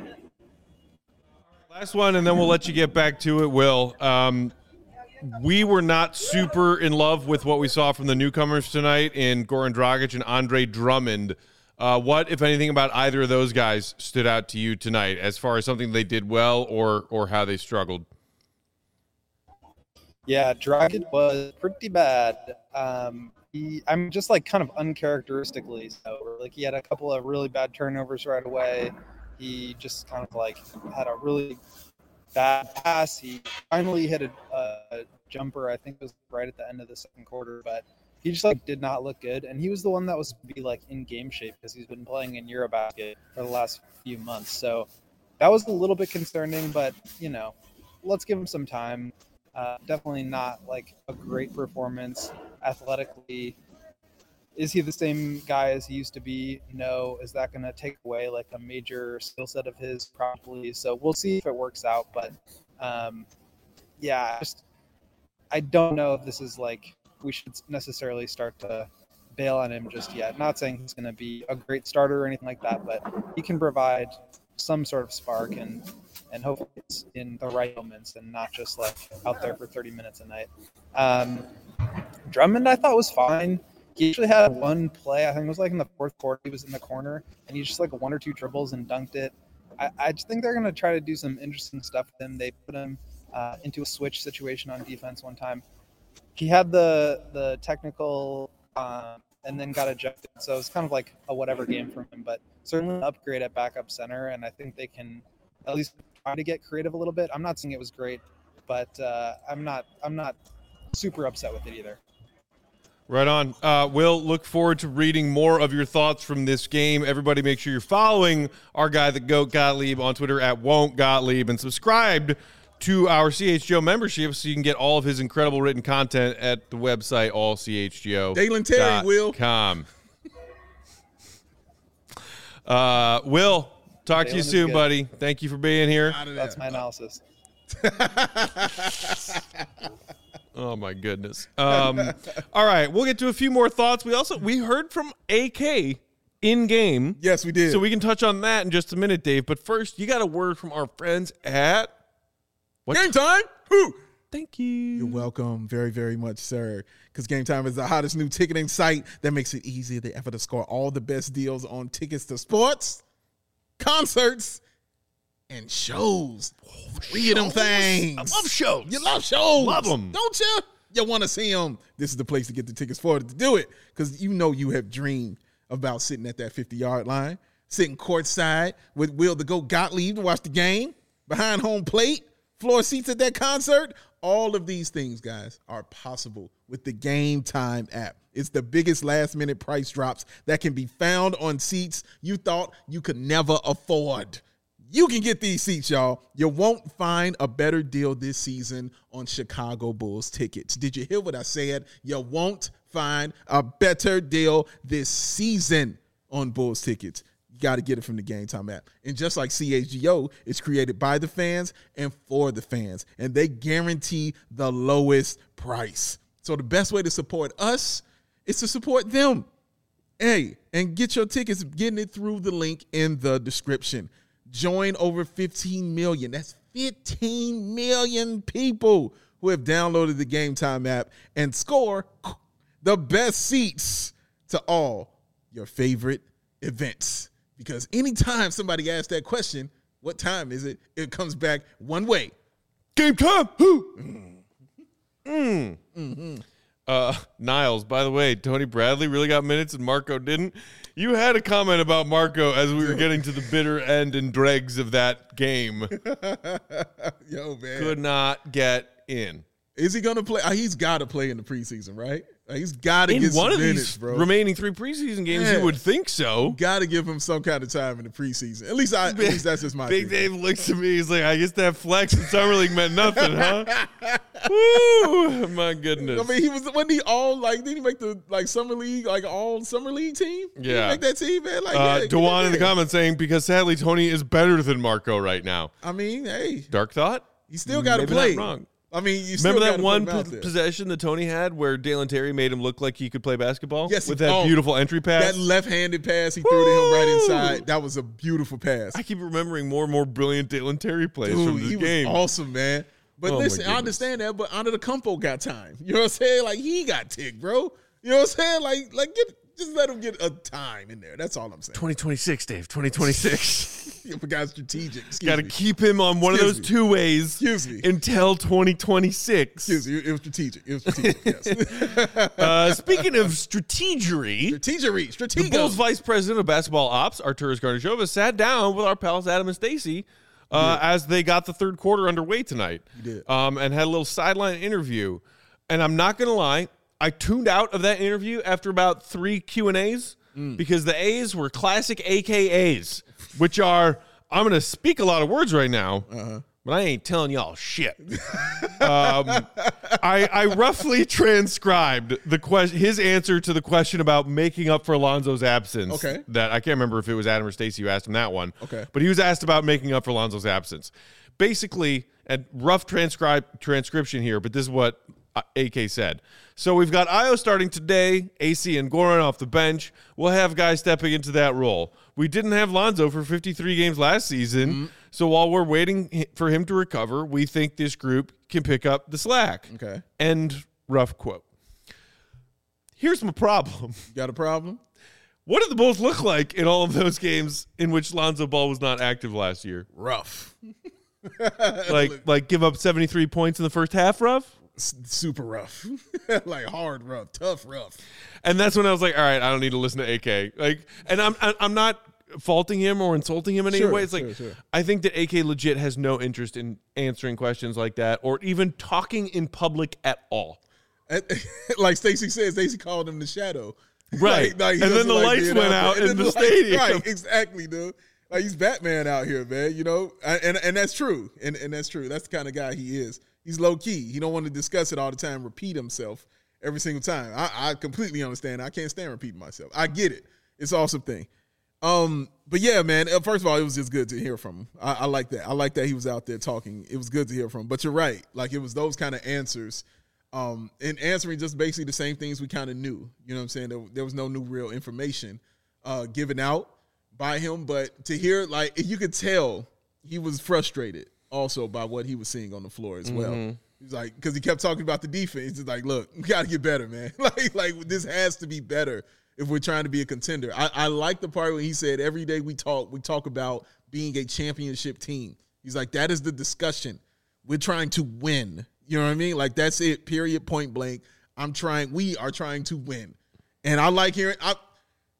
S1: Last one, and then we'll let you get back to it, Will. Um, we were not super in love with what we saw from the newcomers tonight in Goran Dragic and Andre Drummond. Uh, what, if anything, about either of those guys stood out to you tonight as far as something they did well or or how they struggled?
S4: Yeah, Dragic was pretty bad. Um, he, I'm just like kind of uncharacteristically so. Like he had a couple of really bad turnovers right away. He just kind of like had a really bad pass. He finally hit a, a jumper. I think it was right at the end of the second quarter, but he just like did not look good. And he was the one that was to be like in game shape because he's been playing in Eurobasket for the last few months. So that was a little bit concerning, but you know, let's give him some time. Uh, definitely not like a great performance athletically. Is he the same guy as he used to be? No. Is that going to take away like a major skill set of his? Probably. So we'll see if it works out. But um, yeah, just, I don't know if this is like we should necessarily start to bail on him just yet. Not saying he's going to be a great starter or anything like that, but he can provide some sort of spark and and hopefully it's in the right moments and not just like out there for thirty minutes a night. Um, Drummond I thought was fine. He actually had one play, I think it was like in the fourth quarter, he was in the corner and he just like one or two dribbles and dunked it. I, I just think they're going to try to do some interesting stuff with him. They put him uh, into a switch situation on defense one time. He had the the technical uh, and then got ejected. So it's kind of like a whatever game from him, but certainly an upgrade at backup center. And I think they can at least try to get creative a little bit. I'm not saying it was great, but uh, I'm not I'm not super upset with it either.
S1: Right on. Uh, Will, look forward to reading more of your thoughts from this game. Everybody make sure you're following our guy, the GOAT Gottlieb, on Twitter at Won't Gottlieb, and subscribed to our C H G O membership so you can get all of his incredible written content at the website all c h g o dot com.
S3: Dalen Terry, Will.
S1: Uh, Will, talk
S4: Dalen
S1: to you soon,
S4: good.
S1: buddy. Thank you for being here.
S4: That's my analysis.
S1: Oh my goodness. Um, all right, we'll get to a few more thoughts. We also we heard from A K in game.
S3: Yes, we did.
S1: So we can touch on that in just a minute, Dave. But first, you got a word from our friends at what?
S3: Game Time. Woo.
S1: Thank you.
S3: You're welcome very, very much, sir. Because Game Time is the hottest new ticketing site that makes it easier than ever to score all the best deals on tickets to sports, concerts, and shows. Three of them things.
S1: I love shows.
S3: You love shows.
S1: Love them.
S3: Don't you? You want to see them. This is the place to get the tickets for to do it. Because you know you have dreamed about sitting at that fifty-yard line, sitting courtside with Will the GOAT Gottlieb to watch the game, behind home plate, floor seats at that concert. All of these things, guys, are possible with the Game Time app. It's the biggest last-minute price drops that can be found on seats you thought you could never afford. You can get these seats, y'all. You won't find a better deal this season on Chicago Bulls tickets. Did you hear what I said? You won't find a better deal this season on Bulls tickets. You got to get it from the Game Time app. And just like C H G O, it's created by the fans and for the fans. And they guarantee the lowest price. So the best way to support us is to support them. Hey, and get your tickets, getting it through the link in the description. Join over fifteen million. That's fifteen million people who have downloaded the Game Time app and score the best seats to all your favorite events. Because anytime somebody asks that question, what time is it? It comes back one way.
S1: Game time. Mm. Mm. Mm-hmm. Uh, Niles, by the way, Tony Bradley really got minutes and Marco didn't. You had a comment about Marco as we were getting to the bitter end and dregs of that game.
S3: Yo, man.
S1: Could not get in.
S3: Is he going to play? Uh, he's got to play in the preseason, right? Uh, he's got to get some
S1: one of
S3: minutes,
S1: these
S3: bro.
S1: remaining three preseason games,
S3: Yeah.
S1: you would think so.
S3: Got to give him some kind of time in the preseason. At least, I, at least that's just my
S1: Big
S3: thinking.
S1: Dave looks at me. He's like, I guess that flex in Summer League meant nothing, huh? Woo! My goodness.
S3: I mean, he was wasn't he all like? Did he make the like summer league, like all summer league team? Did he
S1: Yeah.
S3: make that team, man. Like,
S1: Uh,
S3: yeah, get
S1: Dewan in the
S3: that.
S1: comments saying, because sadly Tony is better than Marco right now.
S3: I mean, hey,
S1: Dark thought?
S3: you still got to
S1: Maybe
S3: play.
S1: not wrong.
S3: I mean, you still
S1: Remember that
S3: gotta
S1: one
S3: put him out
S1: po-
S3: there.
S1: possession that Tony had where Dalen Terry made him look like he could play basketball?
S3: Yes, he-
S1: with that
S3: oh,
S1: beautiful entry pass?
S3: That left-handed pass he threw to him right
S1: Woo!
S3: inside. That was a beautiful pass.
S1: I keep remembering more and more brilliant Dalen Terry plays
S3: Dude,
S1: from this
S3: he
S1: game.
S3: was awesome, man. But
S1: Oh, my
S3: listen, I
S1: goodness.
S3: understand that, but Under the Campo got time. You know what I'm saying? Like, he got ticked, bro. You know what I'm saying? Like, like get just let him get a time in there. That's all I'm saying.
S1: twenty twenty-six, Dave. twenty twenty-six.
S3: You got strategic. Excuse
S1: Got to
S3: me.
S1: keep him on one
S3: Excuse
S1: of those
S3: me.
S1: two ways
S3: Excuse me.
S1: until twenty twenty-six.
S3: Excuse me. It was strategic. It was strategic, yes.
S1: Uh, speaking of strategery,
S3: Strategery.
S1: the
S3: Strategic.
S1: Bulls vice president of basketball ops, Arturas Garnachova, sat down with our pals Adam and Stacy uh, as they got the third quarter underway tonight.
S3: He did.
S1: Um, and had a little sideline interview. And I'm not going to lie, I tuned out of that interview after about three Q and A's
S3: Mm.
S1: because the A's were classic A K As, which are, I'm going to speak a lot of words right now,
S3: Uh-huh.
S1: but I ain't telling y'all shit. um, I, I roughly transcribed the question, his answer to the question about making up for Alonzo's absence.
S3: Okay.
S1: That I can't remember if it was Adam or Stacey who asked him that one.
S3: Okay.
S1: But he was asked about making up for Alonzo's absence. Basically, a rough transcribe transcription here, but this is what uh, A K said. So we've got Io starting today, A C and Goran off the bench. We'll have guys stepping into that role. We didn't have Lonzo for fifty-three games last season,
S3: Mm-hmm.
S1: so while we're waiting hi- for him to recover, we think this group can pick up the slack.
S3: Okay.
S1: End rough quote. Here's my problem.
S3: You got a problem?
S1: What did the Bulls look like in all of those games in which Lonzo Ball was not active last year?
S3: Rough.
S1: Like, like give up seventy-three points in the first half, rough?
S3: S- super rough. Like hard rough. Tough rough.
S1: And that's when I was like, all right, I don't need to listen to A K. Like, and I'm I- I'm not faulting him or insulting him in any
S3: Sure,
S1: way. It's like
S3: sure, sure.
S1: I think that A K legit has no interest in answering questions like that or even talking in public at all.
S3: And- like Stacey said, Stacey called him the shadow.
S1: Right.
S3: Like, like, he
S1: And then
S3: doesn't
S1: the
S3: like
S1: lights
S3: being
S1: went
S3: there.
S1: out
S3: And
S1: in
S3: then
S1: the
S3: lights-
S1: stadium.
S3: Right, exactly, dude. Like he's Batman out here, man. You know, and and, and that's true, and and that's true. That's the kind of guy he is. He's low key. He don't want to discuss it all the time, repeat himself every single time. I, I completely understand. I can't stand repeating myself. I get it. It's an awesome thing. Um, but yeah, man. uh, First of all, it was just good to hear from him. I, I like that. I like that he was out there talking. It was good to hear from him. But you're right. Like it was those kind of answers. Um, and answering just basically the same things we kind of knew. You know what I'm saying? There, there was no new real information uh, given out by him. But to hear, like, you could tell he was frustrated also by what he was seeing on the floor as well.
S1: Mm-hmm.
S3: He's like, because he kept talking about the defense. He's like, look, we got to get better, man. like, like this has to be better if we're trying to be a contender. I, I like the part when he said, every day we talk, we talk about being a championship team. He's like, that is the discussion. We're trying to win. You know what I mean? Like, that's it, period, point blank. I'm trying, we are trying to win. And I like hearing, I,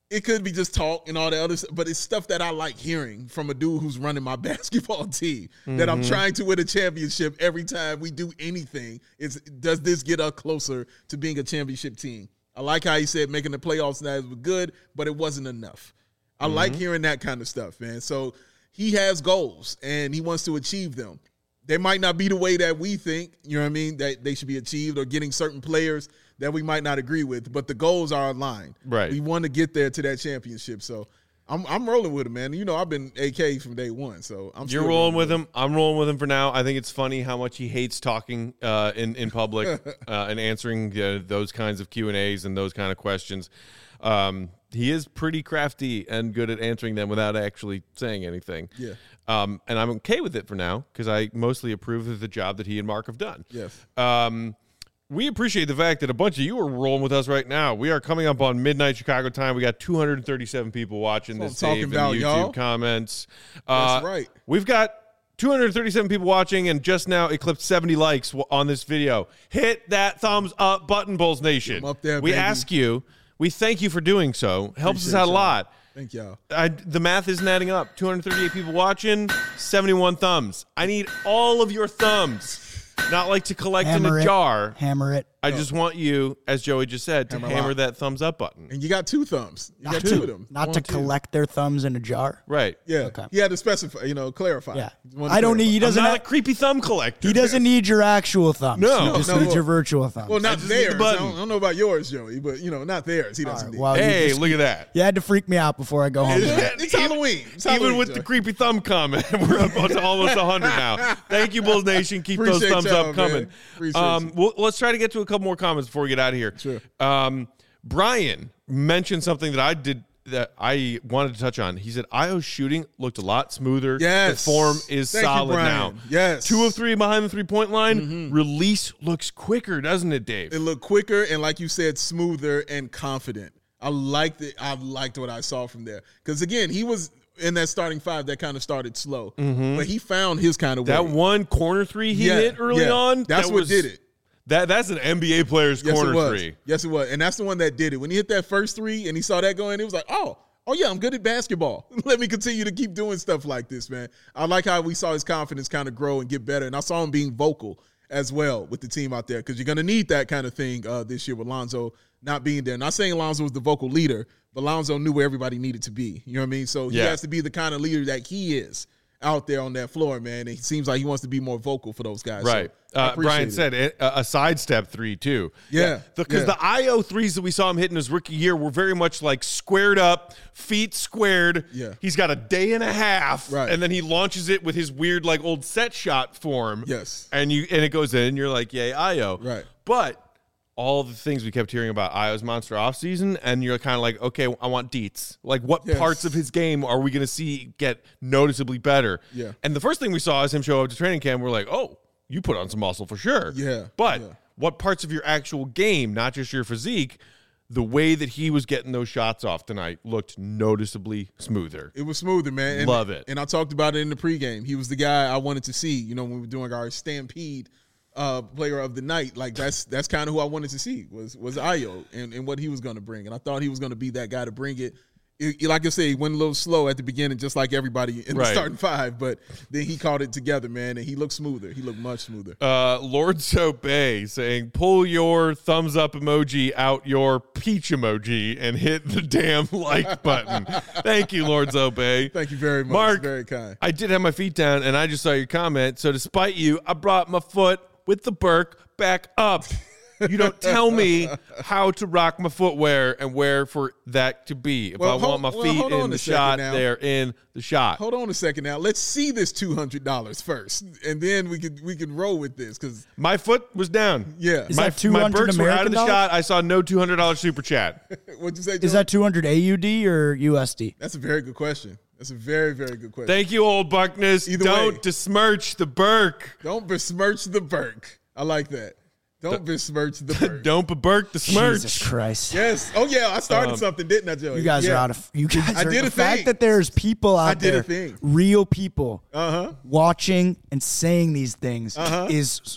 S3: It could be just talk and all the other stuff, but it's stuff that I like hearing from a dude who's running my basketball team mm-hmm. that I'm trying to win a championship every time we do anything. Is does this get us closer to being a championship team? I like how he said making the playoffs now was good, but it wasn't enough. I mm-hmm. like hearing that kind of stuff, man. So he has goals, and he wants to achieve them. They might not be the way that we think, you know what I mean, that they should be achieved, or getting certain players that we might not agree with, but the goals are aligned.
S1: Right.
S3: We want to get there to that championship. So I'm I'm rolling with him, man. You know, I've been A K from day one, so I'm
S1: You're rolling with him. him. I'm rolling with him for now. I think it's funny how much he hates talking uh, in, in public uh, and answering uh, those kinds of Q and A's and those kind of questions. Um, he is pretty crafty and good at answering them without actually saying anything.
S3: Yeah.
S1: Um, and I'm okay with it for now because I mostly approve of the job that he and Mark have done.
S3: Yes.
S1: Um, we appreciate the fact that a bunch of you are rolling with us right now. We are coming up on midnight Chicago time. We got two hundred thirty-seven people watching
S3: That's
S1: this
S3: what I'm
S1: tape in
S3: talking
S1: the
S3: about,
S1: YouTube
S3: y'all.
S1: comments.
S3: That's
S1: Uh,
S3: right.
S1: We've got two hundred thirty-seven people watching and just now eclipsed seventy likes on this video. Hit that thumbs up button, Bulls Nation.
S3: I'm up there,
S1: we
S3: baby.
S1: ask you. We thank you for doing so. Helps
S3: Appreciate
S1: us out
S3: y'all.
S1: a lot.
S3: Thank y'all.
S1: I, the math isn't adding up. two hundred thirty-eight people watching, seventy-one thumbs. I need all of your thumbs. Not like to collect
S2: Hammer
S1: in a
S2: it.
S1: jar.
S2: Hammer it.
S1: I just want you, as Joey just said, to
S3: Hammer
S1: hammer
S3: lock.
S1: that thumbs up button.
S3: And you got two thumbs. You got
S2: Not
S3: two
S2: to,
S3: of them.
S2: not
S3: One,
S2: to
S3: two.
S2: collect their thumbs in a jar.
S1: Right.
S3: Yeah.
S2: Okay.
S3: He had to specify, you know, clarify.
S2: Yeah.
S3: He wanted to
S2: I don't need.
S3: clarify.
S2: He
S1: I'm
S2: doesn't.
S1: not
S2: have-
S1: a creepy thumb collector.
S2: he doesn't need your actual thumbs.
S1: No.
S2: he just
S3: No, no,
S2: needs
S3: well-
S2: your virtual thumbs.
S3: Well, not
S1: just need the
S3: theirs. I
S1: button.
S3: don't, I don't know about yours, Joey, but, you know, not theirs. He doesn't
S2: All right,
S3: need.
S2: well, you
S1: Hey,
S2: just-
S1: look at that.
S2: You had to freak me out before I go home. tonight.
S3: It's Halloween. It's
S1: Even
S3: Halloween,
S1: with
S3: Joey.
S1: the creepy thumb comment, we're up to almost one hundred now. Thank you, Bulls Nation. Keep those
S3: Appreciate
S1: thumbs
S3: y'all,
S1: up coming.
S3: man. Appreciate
S1: Um,
S3: you.
S1: well, let's try to get to a couple more comments before we get out of here.
S3: Sure.
S1: Um, Brian mentioned something that I did that I wanted to touch on. He said Io's shooting looked a lot smoother.
S3: Yes.
S1: The form is
S3: Thank you,
S1: solid
S3: Brian.
S1: now.
S3: Yes.
S1: Two of three behind the three-point line. Release looks quicker, doesn't it, Dave?
S3: It looked quicker and, like you said, smoother and confident. I liked it. I liked what I saw from there. Because, again, he was in that starting five that kind of started slow. But he found his kind of way.
S1: That one corner three he
S3: Yeah,
S1: hit early
S3: yeah.
S1: on.
S3: That's
S1: that
S3: what
S1: was,
S3: did it.
S1: That That's an N B A player's
S3: Yes,
S1: corner
S3: it was.
S1: three.
S3: Yes, it was. And that's the one that did it. When he hit that first three and he saw that going, it was like, oh, oh yeah, I'm good at basketball. Let me continue to keep doing stuff like this, man. I like how we saw his confidence kind of grow and get better. And I saw him being vocal as well with the team out there because you're going to need that kind of thing uh, this year with Lonzo not being there. Not saying Lonzo was the vocal leader, but Lonzo knew where everybody needed to be. You know what I mean? So he
S1: Yeah.
S3: has to be the kind of leader that he is out there on that floor, man. And he seems like he wants to be more vocal for those guys.
S1: Right.
S3: So I
S1: Uh,
S3: appreciate
S1: Brian
S3: it.
S1: said it, a, a sidestep three, too.
S3: Yeah,
S1: Because
S3: yeah.
S1: the I O threes that we saw him hitting his rookie year were very much like squared up, feet squared.
S3: Yeah.
S1: He's got a day and a half.
S3: Right.
S1: And then he launches it with his weird, like, old set shot form.
S3: Yes.
S1: And you and it goes in, and you're like, yay, I O.
S3: Right.
S1: But all the things we kept hearing about I O's monster offseason, and you're kind of like, okay, I want deets. Like, what
S3: Yes.
S1: parts of his game are we going to see get noticeably better?
S3: Yeah.
S1: And the first thing we saw is him show up to training camp. We're like, oh, you put on some muscle for sure.
S3: Yeah,
S1: But
S3: yeah.
S1: what parts of your actual game, not just your physique, the way that he was getting those shots off tonight looked noticeably smoother.
S3: It was smoother, man. And,
S1: Love it.
S3: And I talked about it in the pregame. He was the guy I wanted to see, you know, when we were doing our Stampede uh, player of the night. Like, that's that's kind of who I wanted to see was was Ayo and, and what he was going to bring. And I thought he was going to be that guy to bring it. It, like I said, he went a little slow at the beginning, just like everybody in
S1: Right.
S3: the starting five. But then he caught it together, man, and he looked smoother. He looked much smoother.
S1: Uh, Lord Soap Bay saying, pull your thumbs up emoji out your peach emoji and hit the damn like button. Thank you, Lord Soap Bay.
S3: Thank you very much.
S1: Mark,
S3: Very kind.
S1: I did have my feet down, and I just saw your comment. So despite you, I brought my foot with the Burke back up. You don't tell me how to rock my footwear and where for that to be. If
S3: Well,
S1: I
S3: hold-
S1: want my
S3: well,
S1: feet
S3: hold on
S1: in
S3: a
S1: the
S3: second
S1: shot,
S3: now.
S1: they're in the shot.
S3: Hold on a second now. Let's see this two hundred dollars first, and then we can we can roll with this because
S1: My foot was down.
S3: yeah.
S2: Is
S1: my,
S2: that
S1: my
S2: two hundred
S1: Burks were out of
S2: American
S1: the
S2: dollars?
S1: shot. I saw no two hundred dollars super chat.
S3: What'd you say,
S2: Is
S3: Joe?
S2: that two hundred A U D or U S D?
S3: That's a very good question. That's a very, very good question.
S1: Thank you, old Buckness.
S3: Either
S1: Don't
S3: way.
S1: besmirch the Burke.
S3: Don't besmirch the Burke. I like that. Don't besmirch the Burke.
S1: Don't beburk the smirch.
S2: Jesus Christ.
S3: Yes. Oh yeah, I started
S1: Um,
S3: something, didn't I, Joey?
S2: You guys
S3: yeah.
S2: are out of. You guys
S3: I
S2: are.
S3: did
S2: the
S3: a
S2: fact
S3: thing.
S2: that there's people out
S3: I did
S2: there,
S3: a thing.
S2: real people,
S3: Uh huh.
S2: watching and saying these things
S3: Uh-huh.
S2: is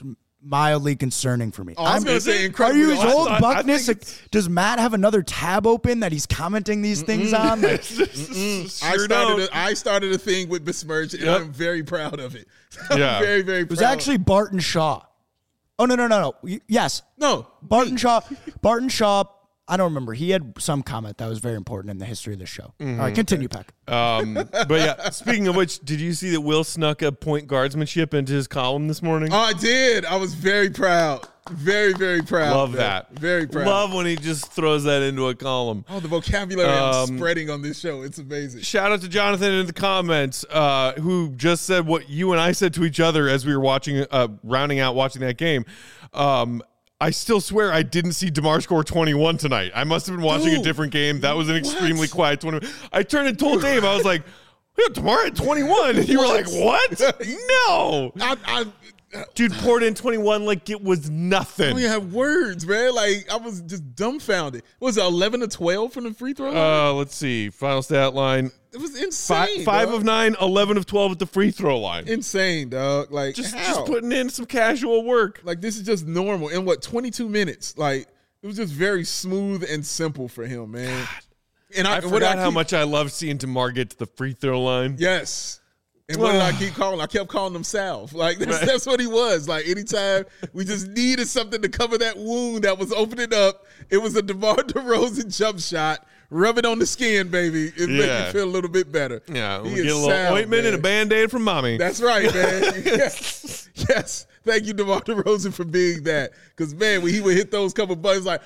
S2: mildly concerning for me.
S3: Oh, I was
S2: I'm-
S3: going to say
S2: Are
S3: incredible.
S2: you his
S1: I
S2: old
S1: thought- I
S2: Buckness?
S1: think it's-
S2: Does Matt have another tab open that he's commenting these things on? Like,
S3: I
S1: Sure
S3: started.
S1: don't.
S3: A, I started a thing with Besmirch, and
S1: Yep.
S3: I'm very proud of it. I'm
S1: Yeah.
S3: very, very
S2: it
S3: proud.
S2: was actually Barton Shaw. Oh, no, no, no, no. Y- Yes,
S3: no.
S2: Barton Shaw. Barton Shaw. I don't remember. He had some comment that was very important in the history of the show. All right, continue, Peck.
S1: Um, but yeah, speaking of which, did you see that Will snuck a point guardsmanship into his column this morning?
S3: Oh, I did. I was very proud. Very, very proud.
S1: Love
S3: man.
S1: that.
S3: Very proud.
S1: Love when he just throws that into a column.
S3: Oh, the vocabulary
S1: Um,
S3: I'm spreading on this show. It's amazing.
S1: Shout out to Jonathan in the comments, uh, who just said what you and I said to each other as we were watching, uh, rounding out watching that game. Um, I still swear I didn't see DeMar score twenty-one tonight. I must have been watching
S3: Dude,
S1: a different game. That was an
S3: what?
S1: extremely quiet twenty-one. I turned and told Dave, I was like, yeah, DeMar at twenty-one. And you were like, what? No.
S3: I, I,
S1: Dude poured in twenty-one like it was
S3: I
S1: nothing.
S3: don't even have words, man. Like, I was just dumbfounded. What was it, eleven to twelve from the free throw line?
S1: Uh, let's see. Final stat line.
S3: It was
S1: Five,
S3: insane.
S1: five
S3: dog.
S1: of nine, eleven of twelve at the free throw line.
S3: Insane, dog. Like,
S1: Just,
S3: how?
S1: just putting in some casual work.
S3: Like, this is just normal. In what, twenty-two minutes? Like, it was just very smooth and simple for him, man. And
S1: I
S3: what
S1: forgot
S3: did I
S1: how
S3: keep-
S1: much I love seeing DeMar get to the free throw line.
S3: Yes. And what did I keep calling? I kept calling him Salve. Like, that's,
S1: Right.
S3: that's what he was. Like, anytime we just needed something to cover that wound that was opening up, it was a DeMar DeRozan jump shot. Rub it on the skin, baby. It made
S1: Yeah.
S3: me feel a little bit better.
S1: Yeah,
S3: He
S1: we
S3: is
S1: get a little
S3: Salve,
S1: ointment
S3: man.
S1: and a Band-Aid from mommy.
S3: That's right, man. yes. yes. Thank you, DeMar DeRozan, for being that. Because, man, when he would hit those couple buttons, like,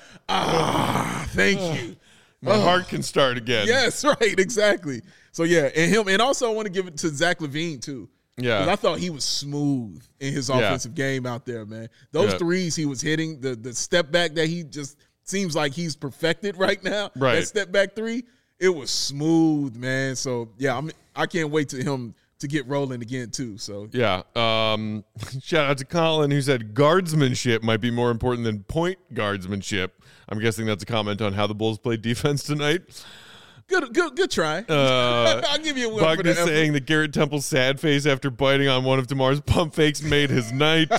S3: ah, thank you.
S1: My heart can start again.
S3: Yes, right, exactly. So, yeah, and him. And also, I want to give it to Zach LaVine, too.
S1: Yeah.
S3: 'Cause I thought he was smooth in his
S1: Yeah.
S3: offensive game out there, man. Those
S1: Yeah.
S3: threes he was hitting, the the step back that he just seems like he's perfected right now.
S1: Right.
S3: That step back three, it was smooth, man. So yeah, I'm I can't wait to him to get rolling again too. So
S1: Yeah. Um, shout out to Colin, who said guardsmanship might be more important than point guardsmanship. I'm guessing that's a comment on how the Bulls played defense tonight.
S3: good, good, good try.
S1: Uh,
S3: I'll give you a win for
S1: Buckner
S3: the effort.
S1: saying that Garrett Temple's sad face after biting on one of DeMar's pump fakes made his night.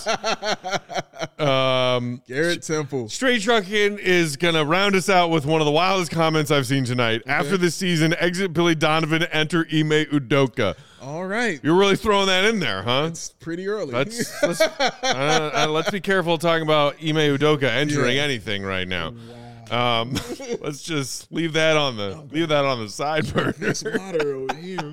S1: um,
S3: Garrett Temple.
S1: Straight Truckin is going to round us out with one of the wildest comments I've seen tonight. After this season, exit Billy Donovan, enter Ime Udoka.
S3: All right,
S1: You're really throwing that in there, huh?
S3: it's pretty early.
S1: Let's let's, uh, uh, let's be careful talking about Ime Udoka entering
S3: Yeah.
S1: anything right now. Um, let's just leave that on the leave that on the side burner.
S3: There's water over here.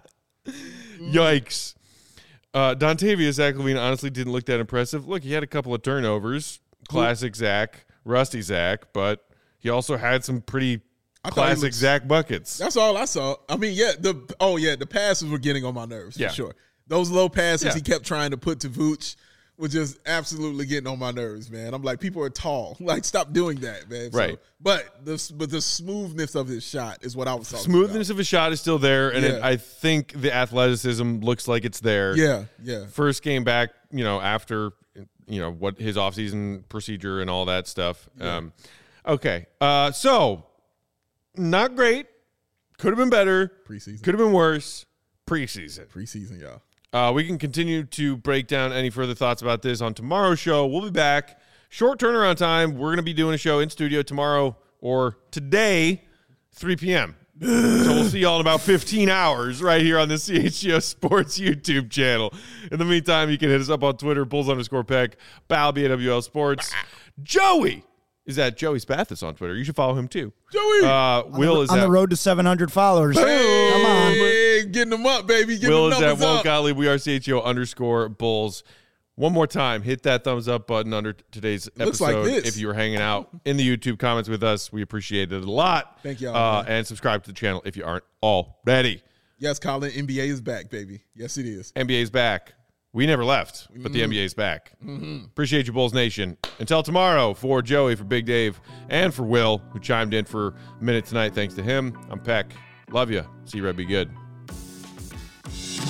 S1: Yikes. Uh, Dontavious Zach LaVine honestly didn't look that impressive. Look, he had a couple of turnovers, classic Zach, rusty Zach, but he also had some pretty
S3: I thought he
S1: classic
S3: looked-
S1: Zach buckets.
S3: That's all I saw. I mean, yeah, the oh yeah, the passes were getting on my nerves
S1: Yeah.
S3: for sure. Those low passes
S1: Yeah.
S3: he kept trying to put to Vooch were just absolutely getting on my nerves, man. I'm like, people are tall. Like, stop doing that, man. So-
S1: Right.
S3: but the but the smoothness of his shot is what I was talking
S1: Smoothness of his shot is still there, and it,
S3: Yeah.
S1: I think the athleticism looks like it's there.
S3: about. Yeah, yeah.
S1: First game back, you know, after you know what his offseason procedure and all that stuff. Um, okay, uh, so not great. Could have been better.
S3: Preseason.
S1: Could have been worse. Preseason.
S3: Preseason, y'all.
S1: Uh, we can continue to break down any further thoughts about this on tomorrow's show. We'll be back. Short turnaround time. We're going to be doing a show in studio tomorrow or today, three p.m. So we'll see y'all in about fifteen hours right here on the C H G O Sports YouTube channel. In the meantime, you can hit us up on Twitter, Bulls underscore Peck, Balby at W L Sports. Joey is at Joey Spathis on Twitter. You should follow him too.
S3: Joey.
S1: Uh, Will is
S2: on
S1: at
S2: the road to seven hundred followers.
S3: hey,
S2: Come on.
S3: getting them up, baby. Getting
S1: Will
S3: them
S1: is at
S3: numbers
S1: Will
S3: up.
S1: Gottlieb. We are C H G O underscore Bulls. One more time, hit that thumbs up button under today's
S3: looks like
S1: episode.
S3: this.
S1: If you were hanging out in the YouTube comments with us, we appreciate it a lot.
S3: Thank y'all,
S1: Uh,
S3: man.
S1: and subscribe to the channel if you aren't already.
S3: Yes, Colin. N B A is back, baby. Yes, it is.
S1: N B A's back. We never left, but
S3: Mm-hmm.
S1: the N B A's back. Appreciate you, Bulls Nation. Until tomorrow, for Joey, for Big Dave, and for Will, who chimed in for a minute tonight. Thanks to him. I'm Peck. Love you. See you, Red. Be good.